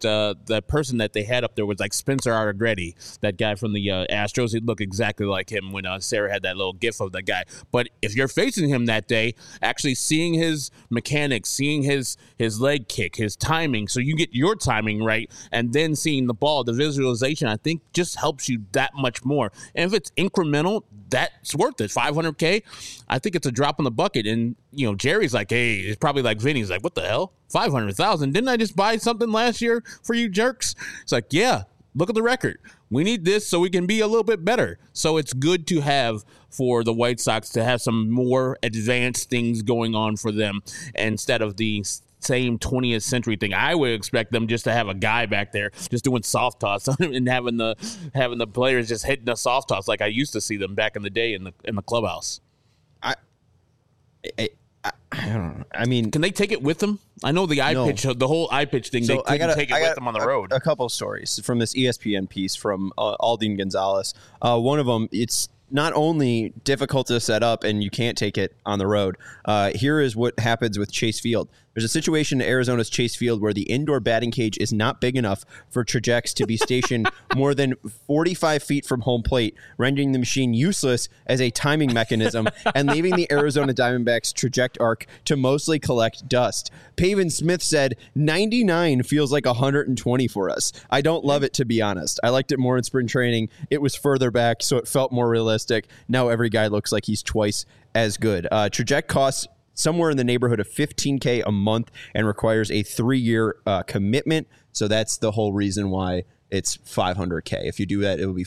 the person that they had up there was like Spencer Allegretti, that guy from the Astros. He'd look exactly like him when Sarah had that little gif of that guy. But if you're facing him that day, actually seeing his mechanics, seeing his leg kick, his timing, so you get your timing right, and then seeing the ball, the visualization, I think just helps you that much more. And if it's incremental, that's worth it. $500K, I think it's a drop in the bucket. And Jerry's like, hey, it's probably like Vinny's like, what the hell? $500,000? Didn't I just buy something last year for you jerks? It's like, yeah, look at the record. We need this so we can be a little bit better. So it's good to have for the White Sox to have some more advanced things going on for them instead of the same 20th century thing. I would expect them just to have a guy back there just doing soft toss and having the players just hitting the soft toss like I used to see them back in the day in the clubhouse. I don't know. I mean, can they take it with them? I know the iPitch, the whole iPitch thing, they couldn't take it with them on the road. A couple of stories from this ESPN piece from Aldine Gonzalez. One of them, it's not only difficult to set up and you can't take it on the road. Here is what happens with Chase Field. There's a situation in Arizona's Chase Field where the indoor batting cage is not big enough for Trajects to be stationed more than 45 feet from home plate, rendering the machine useless as a timing mechanism and leaving the Arizona Diamondbacks Traject arc to mostly collect dust. Pavin Smith said, 99 feels like 120 for us. I don't love it, to be honest. I liked it more in spring training. It was further back, so it felt more realistic. Now every guy looks like he's twice as good. Traject costs somewhere in the neighborhood of $15K a month and requires a 3-year commitment. So that's the whole reason why it's $500K. If you do that, it would be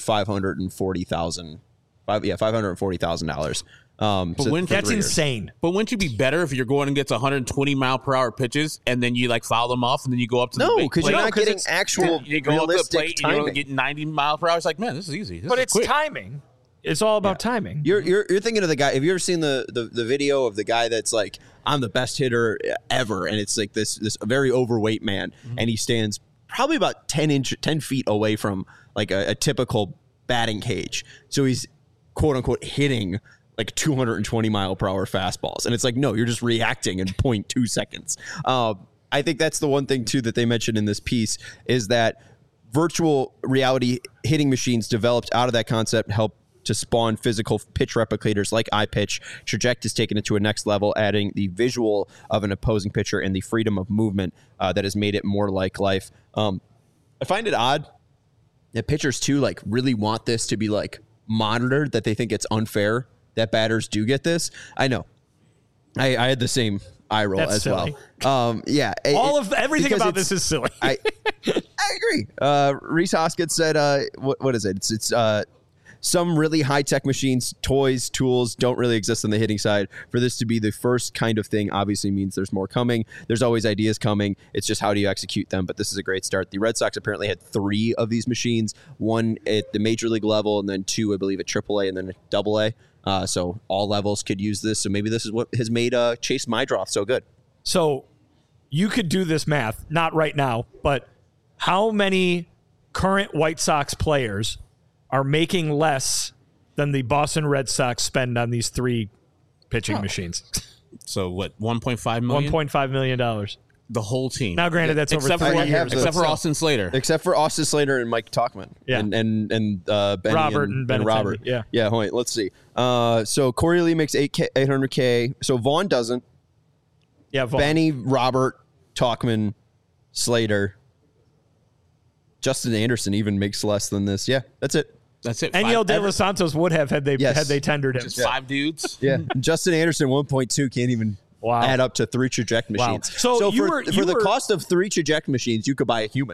$540,000. That's insane. But wouldn't you be better if you're going and gets 120 mile per hour pitches and then you like foul them off and then you go up to the big because you're not getting actual you go realistic up to the plate timing. And you're getting 90 mile per hour. It's like, man, this is easy. But it's quick. timing. It's all about timing. You're thinking of the guy. Have you ever seen the video of the guy that's like, I'm the best hitter ever, and it's like this very overweight man, and he stands probably about 10 feet away from like a typical batting cage. So he's quote unquote hitting like 220 mile per hour fastballs, and it's like, no, you're just reacting in 0.2 seconds. I think that's the one thing too that they mentioned in this piece is that virtual reality hitting machines developed out of that concept help to spawn physical pitch replicators like iPitch. Traject has taken it to a next level, adding the visual of an opposing pitcher and the freedom of movement that has made it more like life. I find it odd that pitchers too like really want this to be like monitored, that they think it's unfair that batters do get this. I know. I had the same eye roll That's as silly. well. Yeah. Everything about this is silly. I agree. Reese Hoskins said, what is it? It's some really high-tech machines, toys, tools don't really exist on the hitting side. For this to be the first kind of thing obviously means there's more coming. There's always ideas coming. It's just how do you execute them? But this is a great start. The Red Sox apparently had 3 of these machines, 1 at the major league level and then 2, I believe, at AAA and then at AA. So all levels could use this. So maybe this is what has made Chase Maedroff so good. So you could do this math, not right now, but how many current White Sox players are making less than the Boston Red Sox spend on these 3 pitching machines? So what, 1.5 million? $1.5 million. The whole team. Now, granted, that's over 3 years. Except for Austin Slater. Except for Austin Slater and Mike Tauchman. Yeah. And Benny Robert and Benintendi. Robert. Yeah. Yeah, wait, let's see. So Corey Lee makes $800K. So Vaughn doesn't. Yeah, Vaughn. Benny, Robert, Tauchman, Slater. Justin Anderson even makes less than this. Yeah, that's it. That's it. Enyo De Los Santos would have had they tendered him. Just 5 dudes. Yeah. Justin Anderson 1.2 can't even add up to 3 Traject machines. Wow. So for the cost of 3 Traject machines, you could buy a human.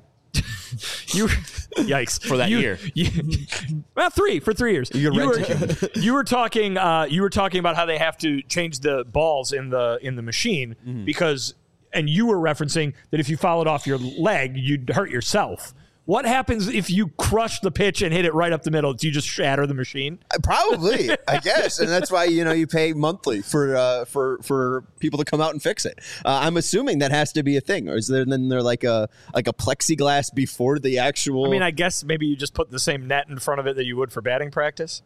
Yikes for that year. Well, 3 for 3 years. You were talking about how they have to change the balls in the machine because, and you were referencing that if you fouled off your leg, you'd hurt yourself. What happens if you crush the pitch and hit it right up the middle? Do you just shatter the machine? Probably, I guess, and that's why you pay monthly for people to come out and fix it. I'm assuming that has to be a thing, or is there like a plexiglass before the actual? I mean, I guess maybe you just put the same net in front of it that you would for batting practice.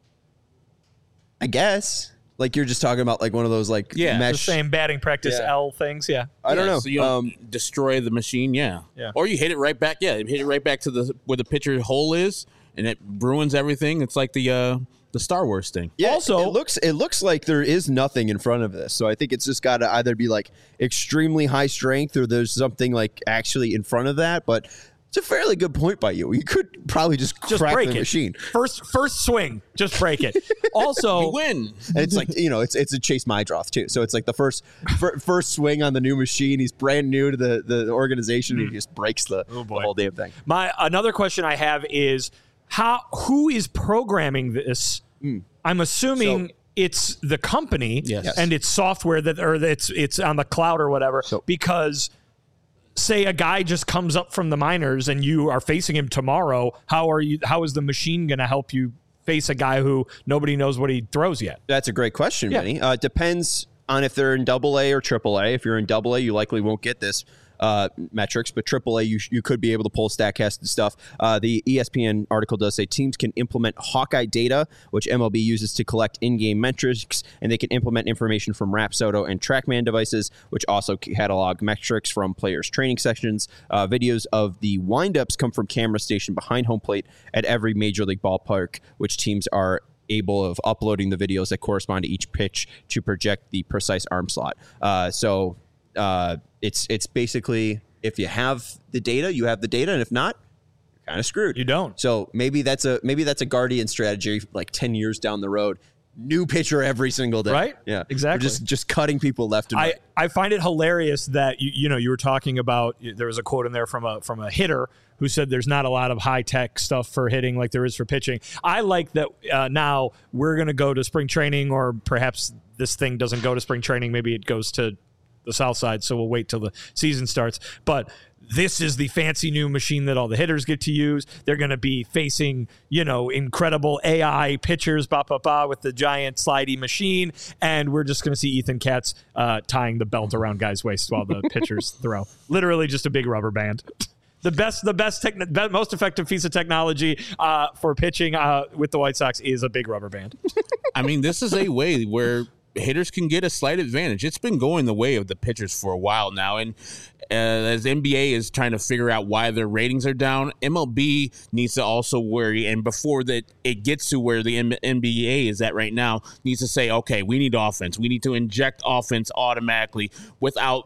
I guess. Like you're just talking about like one of those like mesh. The same batting practice L things, I don't know. So you don't destroy the machine, or you hit it right back, hit it right back to where the pitcher hole is, and it ruins everything. It's like the Star Wars thing. Yeah, also, it looks like there is nothing in front of this, so I think it's just got to either be like extremely high strength or there's something like actually in front of that, but. It's a fairly good point by you. You could probably just crack break the it. machine. First swing, just break it. Also, you win. And it's like it's a Chase Maedroff too. So it's like the first swing on the new machine. He's brand new to the organization. And he just breaks the whole damn thing. Another question I have is who is programming this? I'm assuming it's the company and it's software it's on the cloud or whatever. Because say a guy just comes up from the minors and you are facing him tomorrow, how is the machine going to help you face a guy who nobody knows what he throws yet? That's a great question, Benny. Depends on if they're in AA or AAA. If you're in AA, you likely won't get this metrics, but AAA, you could be able to pull StatCast and stuff. The ESPN article does say teams can implement Hawkeye data, which MLB uses to collect in-game metrics, and they can implement information from Rapsodo and TrackMan devices, which also catalog metrics from players' training sessions. Videos of the windups come from camera stationed behind home plate at every major league ballpark, which teams are able of uploading the videos that correspond to each pitch to project the precise arm slot. So it's basically, if you have the data, you have the data, and if not, you're kind of screwed. You don't. So maybe that's a Guardian strategy, like 10 years down the road. New pitcher every single day. Right? Yeah, exactly. Just cutting people left and right. I find it hilarious that you were talking about, there was a quote in there from a hitter who said there's not a lot of high tech stuff for hitting like there is for pitching. I like that now we're going to go to spring training, or perhaps this thing doesn't go to spring training. Maybe it goes to the south side, so we'll wait till the season starts. But this is the fancy new machine that all the hitters get to use. They're going to be facing, incredible AI pitchers, with the giant slidey machine, and we're just going to see Ethan Katz tying the belt around guys' waists while the pitchers throw. Literally just a big rubber band. The most effective piece of technology for pitching with the White Sox is a big rubber band. I mean, this is a way where hitters can get a slight advantage. It's been going the way of the pitchers for a while now, and as NBA is trying to figure out why their ratings are down, MLB needs to also worry, and before that it gets to where the NBA is at right now, needs to say, okay, we need offense. We need to inject offense automatically without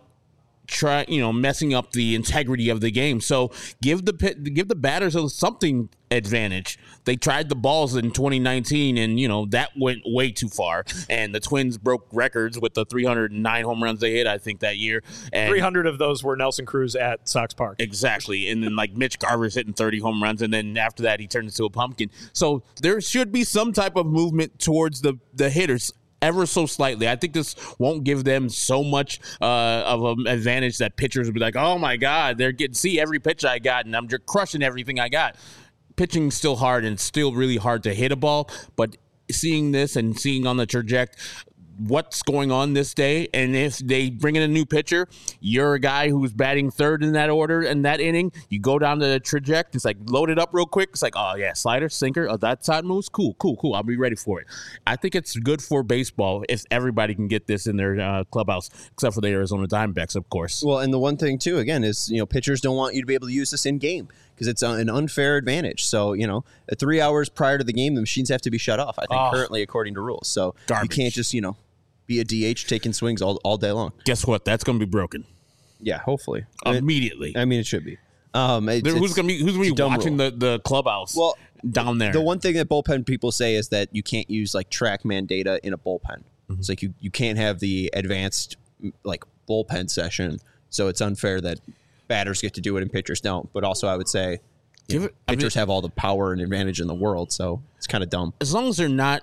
messing up the integrity of the game. So give the batters something advantage. They tried the balls in 2019, and that went way too far. And the Twins broke records with the 309 home runs they hit, I think, that year. And 300 of those were Nelson Cruz at Sox Park. Exactly. And then Mitch Garver's hitting 30 home runs, and then after that he turned into a pumpkin. So there should be some type of movement towards the hitters, ever so slightly. I think this won't give them so much of an advantage that pitchers will be like, oh my God, they're getting see every pitch I got, and I'm just crushing everything I got. Pitching's still hard, and it's still really hard to hit a ball, but seeing this and seeing on the trajectory what's going on this day, and if they bring in a new pitcher, you're a guy who's batting third in that order in that inning, you go down to the trajectory, it's like load it up real quick, it's like, oh yeah, slider, sinker, that side moves, cool, I'll be ready for it. I think it's good for baseball if everybody can get this in their clubhouse, except for the Arizona Diamondbacks, of course. Well, and the one thing too, again, is pitchers don't want you to be able to use this in game because it's an unfair advantage. So 3 hours prior to the game, the machines have to be shut off, I think, currently according to rules. So garbage. You can't just be a DH taking swings all day long. Guess what? That's going to be broken. Yeah, hopefully. Immediately. It should be. Who's going to be watching the clubhouse down there? The one thing that bullpen people say is that you can't use TrackMan data in a bullpen. Mm-hmm. It's like you can't have the advanced bullpen session, so it's unfair that batters get to do it and pitchers don't. But also I would say pitchers have all the power and advantage in the world, so it's kind of dumb. As long as they're not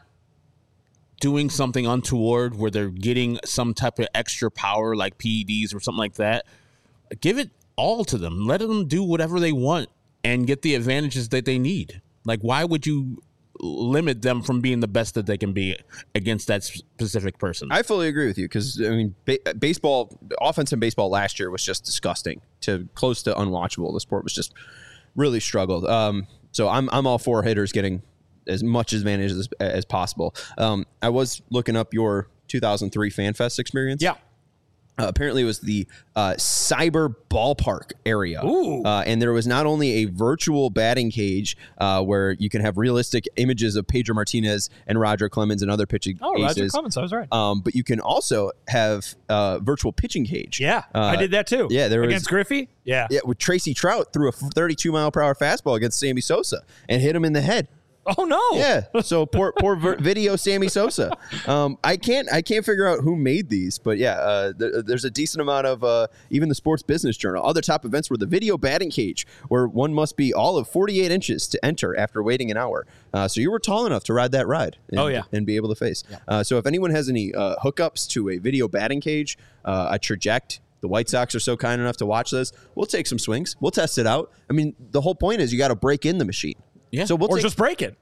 doing something untoward where they're getting some type of extra power like PEDs or something like that, give it all to them. Let them do whatever they want and get the advantages that they need. Why would you limit them from being the best that they can be against that specific person? I fully agree with you because, baseball, offense in baseball last year was just disgusting to close to unwatchable. The sport was just really struggled. So I'm all for hitters getting as much advantage as possible. I was looking up your 2003 FanFest experience. Yeah. Apparently it was the Cyber Ballpark area. Ooh. And there was not only a virtual batting cage where you can have realistic images of Pedro Martinez and Roger Clemens and other pitching aces. Roger Clemens, I was right. But you can also have virtual pitching cage. Yeah, I did that too. Yeah, against Griffey? Yeah. Yeah, with Tracy Trout threw a 32-mile-per-hour fastball against Sammy Sosa and hit him in the head. Oh no! Yeah, so poor video Sammy Sosa. I can't figure out who made these, but yeah, there's a decent amount of even the Sports Business Journal. Other top events were the video batting cage, where one must be all of 48 inches to enter after waiting an hour. So you were tall enough to ride that ride. And be able to face. Yeah. So if anyone has any hookups to a video batting cage, a Traject. The White Sox are so kind enough to watch this. We'll take some swings. We'll test it out. I mean, the whole point is you got to break in the machine. Yeah. So just break it.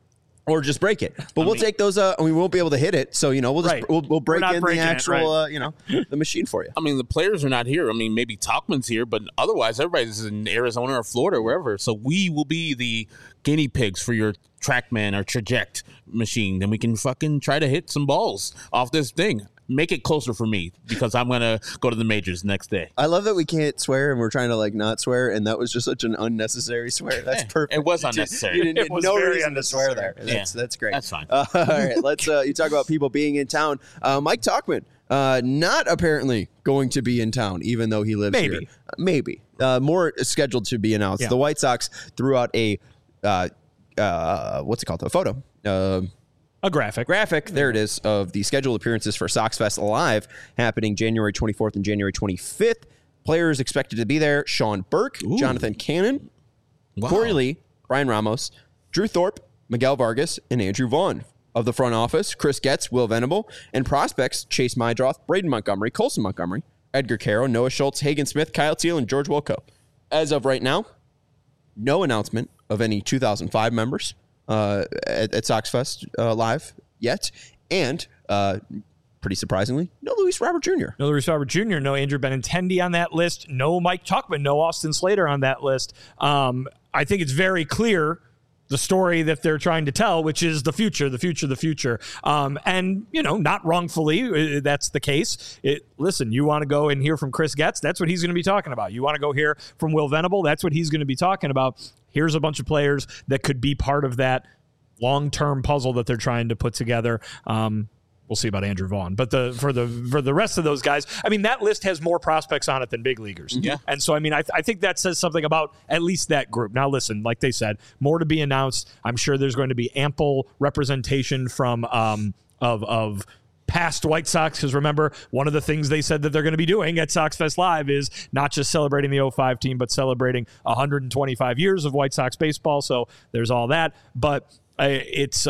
Or just break it, but we'll take those. We won't be able to hit it, so we'll just we'll break in the actual, the machine for you. I mean, the players are not here. I mean, maybe Tauchman's here, but otherwise, everybody's in Arizona or Florida, or wherever. So we will be the guinea pigs for your TrackMan or Traject machine. Then we can fucking try to hit some balls off this thing. Make it closer for me because I'm going to go to the majors next day. I love that we can't swear and we're trying to not swear, and that was just such an unnecessary swear. That's perfect. It was unnecessary. You didn't no reason to swear there. That's great. That's fine. All right, let's you talk about people being in town. Mike Tauchman not apparently going to be in town, even though he lives here. Maybe. More scheduled to be announced. Yeah. The White Sox threw out a what's it called? A photo. A graphic. There it is, of the scheduled appearances for Sox Fest Live happening January 24th and January 25th. Players expected to be there: Sean Burke, Jonathan Cannon, Corey Lee, Brian Ramos, Drew Thorpe, Miguel Vargas, and Andrew Vaughn. Of the front office, Chris Getz, Will Venable, and prospects: Chase Mydroth, Braden Montgomery, Colson Montgomery, Edgar Caro, Noah Schultz, Hagen Smith, Kyle Teal, and George Wilco. As of right now, no announcement of any 2005 members at Sox Fest Live yet, and pretty surprisingly, no Luis Robert Jr. No Luis Robert Jr., no Andrew Benintendi on that list, no Mike Tauchman, no Austin Slater on that list. I think it's very clear the story that they're trying to tell, which is the future. And, not wrongfully, that's the case. Listen, you want to go and hear from Chris Getz? That's what he's going to be talking about. You want to go hear from Will Venable? That's what he's going to be talking about. Here's a bunch of players that could be part of that long-term puzzle that they're trying to put together. We'll see about Andrew Vaughn, but for the rest of those guys, I mean, that list has more prospects on it than big leaguers. Yeah. And so, I mean, I think that says something about at least that group. Now, listen, like they said, more to be announced. I'm sure there's going to be ample representation from of past White Sox, because remember, one of the things they said that they're going to be doing at Sox Fest Live is not just celebrating the 05 team, but celebrating 125 years of White Sox baseball. So there's all that, but it's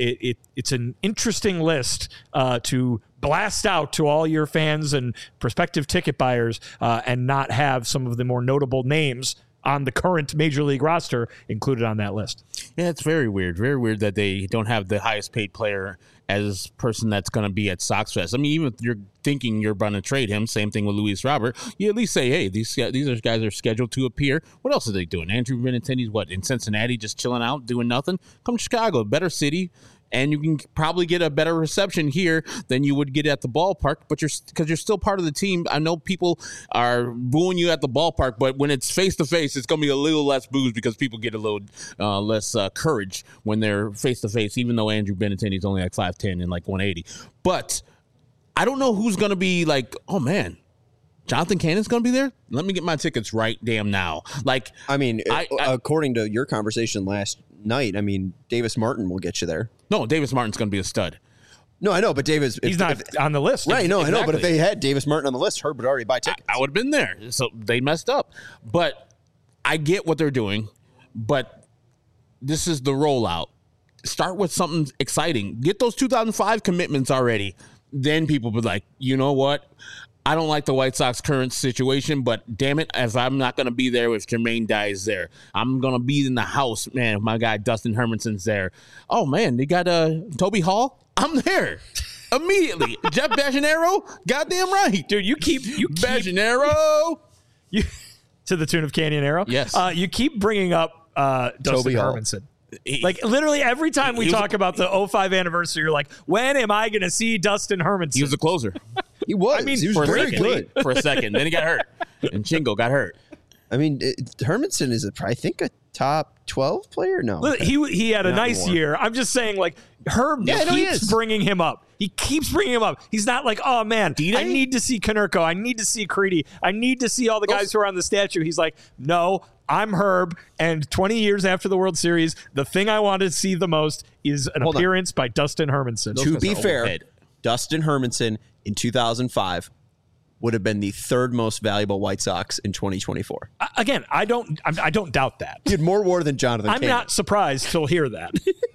an interesting list to blast out to all your fans and prospective ticket buyers, and not have some of the more notable names on the current Major League roster included on that list. Yeah, it's very weird. Very weird that they don't have the highest paid player as person that's going to be at Sox Fest. I mean, even if you're thinking you're going to trade him, same thing with Luis Robert, you at least say, hey, these guys are scheduled to appear. What else are they doing? Andrew Benintendi's in Cincinnati, just chilling out, doing nothing? Come to Chicago, a better city, and you can probably get a better reception here than you would get at the ballpark, but because you're still part of the team. I know people are booing you at the ballpark, but when it's face-to-face, it's going to be a little less boos because people get a little less courage when they're face-to-face, even though Andrew Benintendi is only 5'10" and 180. But I don't know who's going to be oh, man, Jonathan Cannon's going to be there? Let me get my tickets right damn now. According to your conversation last night, I mean, Davis Martin will get you there. No, Davis Martin's going to be a stud. No, I know, but he's not on the list. Right, no, exactly. I know, but if they had Davis Martin on the list, Herb would already buy tickets. I would have been there. So they messed up. But I get what they're doing, but this is the rollout. Start with something exciting. Get those 2005 commitments already. Then people be like, you know what? I don't like the White Sox current situation, but damn it, if I'm not going to be there if Jermaine Dye's there, I'm going to be in the house, man, if my guy Dustin Hermanson's there. Oh, man, they got Toby Hall? I'm there. Immediately. Jeff Bajanero? Goddamn right. Dude, you keep Bajanero. To the tune of Canyonero? Yes. You keep bringing up Dustin Hermanson. Literally every time we talk about the 05 anniversary, you're like, when am I going to see Dustin Hermanson? He was a closer. He was. I mean, he was very good. For a second. Then he got hurt. And Chingo got hurt. I mean, Hermanson is, I think, a top 12 player? No. He had a nice year. I'm just saying, Herb keeps bringing him up. He keeps bringing him up. He's not like, oh, man, I need to see Konerko. I need to see Creedy. I need to see all the guys who are on the statue. He's like, no, I'm Herb, and 20 years after the World Series, the thing I want to see the most is an appearance by Dustin Hermanson. To be fair, Dustin Hermanson in 2005 would have been the third most valuable White Sox in 2024. Again, I don't doubt that. He had more WAR than Jonathan Cannon. I'm not surprised to hear that.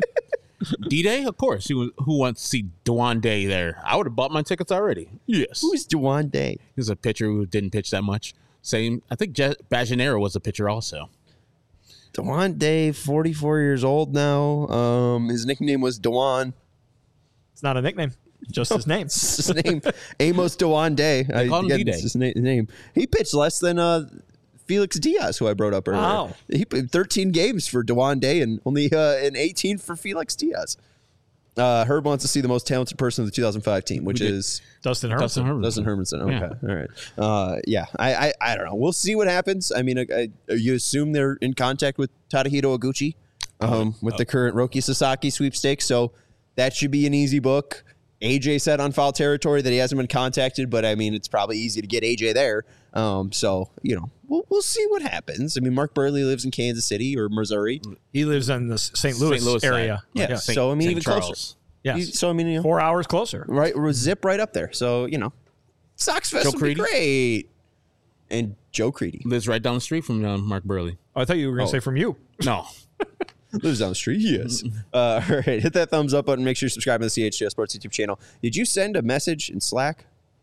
D-Day? Of course. Who wants to see Dwan Day there? I would have bought my tickets already. Yes. Who's Dwan Day? He was a pitcher who didn't pitch that much. Same. I think Bajanero was a pitcher also. Dewan Day, 44 years old now. His nickname was Dewan. It's not a nickname. Just his name. It's his name. Amos Dewan Day. It's his name. He pitched less than Felix Diaz, who I brought up earlier. Wow. He played 13 games for Dewan Day and only in 18 for Felix Diaz. Herb wants to see the most talented person of the 2005 team, which is Dustin Hermanson. Dustin Hermanson. Okay. All right. Yeah. I don't know. We'll see what happens. I mean, you assume they're in contact with Tadahito Oguchi with the current Roki Sasaki sweepstakes. So that should be an easy book. AJ said on foul territory that he hasn't been contacted, but I mean, it's probably easy to get AJ there. So, we'll see what happens. I mean, Mark Burley lives in Kansas City or Missouri. He lives in the St. Louis area. Yeah. So, I mean, even closer. Yes. So, I mean, 4 hours closer. Right. We're zip right up there. So, Sox Fest would be great. And Joe Creedy lives right down the street from Mark Burley. Oh, I thought you were going to say from you. No. Lives down the street. Yes. All right. Hit that thumbs up button. Make sure you subscribe to the CHGO Sports YouTube channel. Did you send a message in Slack?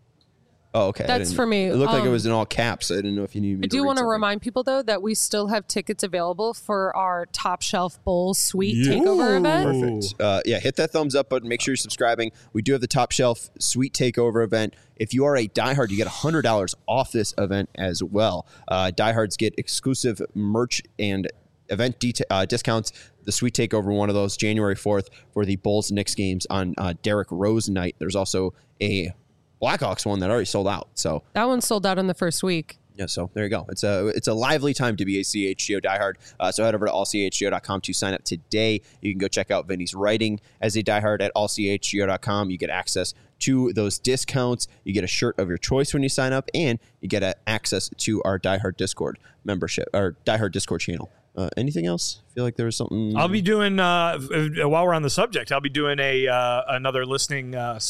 Oh, okay. That's for me. It looked like it was in all caps. I didn't know if you needed me I do want to remind people, though, that we still have tickets available for our Top Shelf Bowl Suite Takeover event. Perfect. Hit that thumbs up button. Make sure you're subscribing. We do have the Top Shelf Suite Takeover event. If you are a diehard, you get $100 off this event as well. Diehards get exclusive merch and event discounts. The Sweet Takeover, one of those, January 4th for the Bulls-Knicks games on Derrick Rose night. There's also a Blackhawks one that already sold out. So that one sold out in the first week. Yeah, so there you go. It's a lively time to be a CHGO diehard. So head over to allchgo.com to sign up today. You can go check out Vinny's writing as a diehard at allchgo.com. You get access to those discounts. You get a shirt of your choice when you sign up, and you get access to our diehard Discord membership, our diehard Discord channel. Anything else? I feel like there was something. I'll be doing while we're on the subject. I'll be doing another listening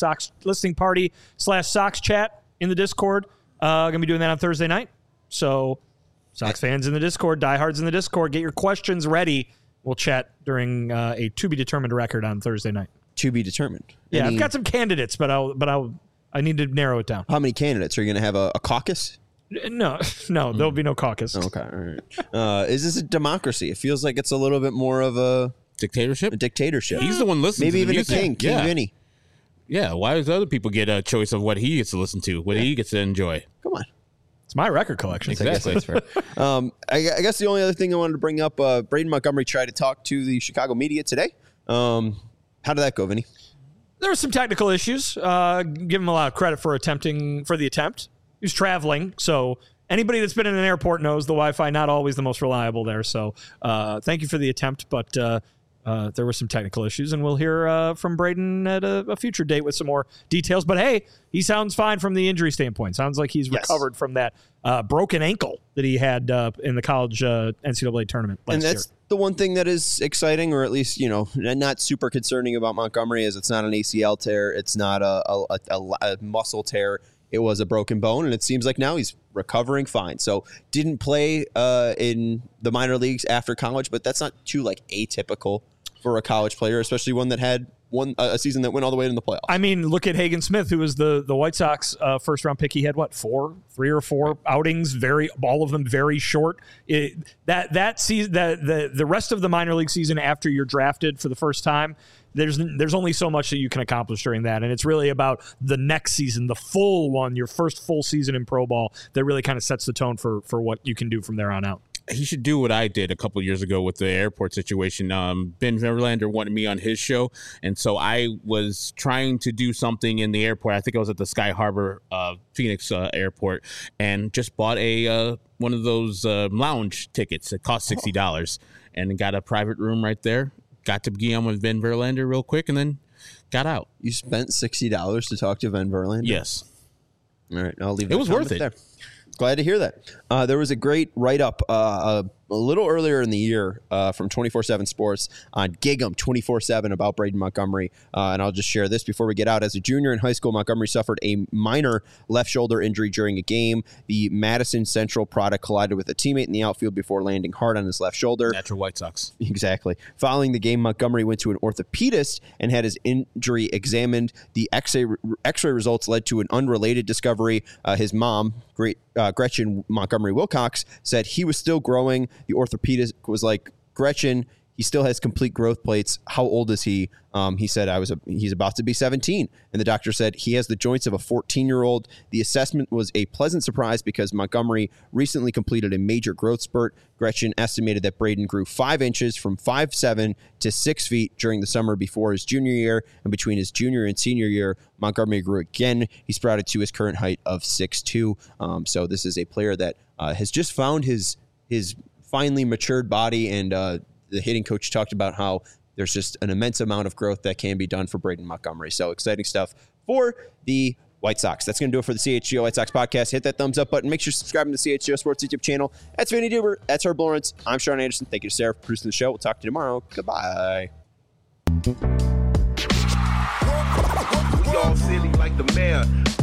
party / Sox chat in the Discord. Gonna be doing that on Thursday night. So, Sox fans in the Discord, diehards in the Discord, get your questions ready. We'll chat during a to be determined record on Thursday night. To be determined. Yeah, I've got some candidates, but I need to narrow it down. How many candidates are you going to have? A caucus? No, there'll be no caucus. Okay, all right. Is this a democracy? It feels like it's a little bit more of a dictatorship. He's the one listening. Maybe to even a king Vinny. Yeah, why does other people get a choice of what he gets to listen to, what he gets to enjoy? Come on. It's my record collection. Exactly. I guess the only other thing I wanted to bring up, Braden Montgomery tried to talk to the Chicago media today. How did that go, Vinny? There were some technical issues. Give him a lot of credit for the attempt. He was traveling, so anybody that's been in an airport knows the Wi-Fi not always the most reliable there. So thank you for the attempt, but there were some technical issues, and we'll hear from Braden at a future date with some more details. But hey, he sounds fine from the injury standpoint. Sounds like he's recovered from that broken ankle that he had in the college NCAA tournament last year. The one thing that is exciting, or at least, not super concerning about Montgomery, is it's not an ACL tear. It's not a muscle tear. It was a broken bone, and it seems like now he's recovering fine. So didn't play in the minor leagues after college, but that's not too atypical for a college player, especially one that had a season that went all the way into the playoffs. I mean, look at Hagen Smith, who was the White Sox first round pick. He had 3 or 4 outings, all of them very short. That season, the rest of the minor league season after you're drafted for the first time, there's only so much that you can accomplish during that, and it's really about the next season, the full one, your first full season in pro ball, that really kind of sets the tone for what you can do from there on out. He should do what I did a couple of years ago with the airport situation. Ben Verlander wanted me on his show, and so I was trying to do something in the airport. I think I was at the Sky Harbor Phoenix airport, and just bought one of those lounge tickets. It cost $60, and got a private room right there. Got to be on with Ben Verlander real quick, and then got out. You spent $60 to talk to Ben Verlander? Yes. All right, I'll leave. It was worth it. There. Glad to hear that. There was a great write-up a little earlier in the year from 24/7 Sports on Gig 'em 24/7 about Braden Montgomery. And I'll just share this before we get out. As a junior in high school, Montgomery suffered a minor left shoulder injury during a game. The Madison Central product collided with a teammate in the outfield before landing hard on his left shoulder. Natural White Sox. Exactly. Following the game, Montgomery went to an orthopedist and had his injury examined. The X-ray results led to an unrelated discovery. His mom, Gretchen Montgomery Wilcox, said he was still growing. The orthopedist was like, Gretchen, he still has complete growth plates. How old is he? He said, he's about to be 17. And the doctor said he has the joints of a 14-year-old. The assessment was a pleasant surprise because Montgomery recently completed a major growth spurt. Gretchen estimated that Braden grew 5 inches from 5'7" to 6 feet during the summer before his junior year. And between his junior and senior year, Montgomery grew again. He sprouted to his current height of 6'2". So this is a player that has just found his finely matured body, and the hitting coach talked about how there's just an immense amount of growth that can be done for Braden Montgomery. So exciting stuff for the White Sox. That's going to do it for the CHGO White Sox podcast. Hit that thumbs up button. Make sure you're subscribing to the CHGO Sports YouTube channel. That's Vinny Duber. That's Herb Lawrence. I'm Sean Anderson. Thank you to Sarah for producing the show. We'll talk to you tomorrow. Goodbye. We all silly like the mayor.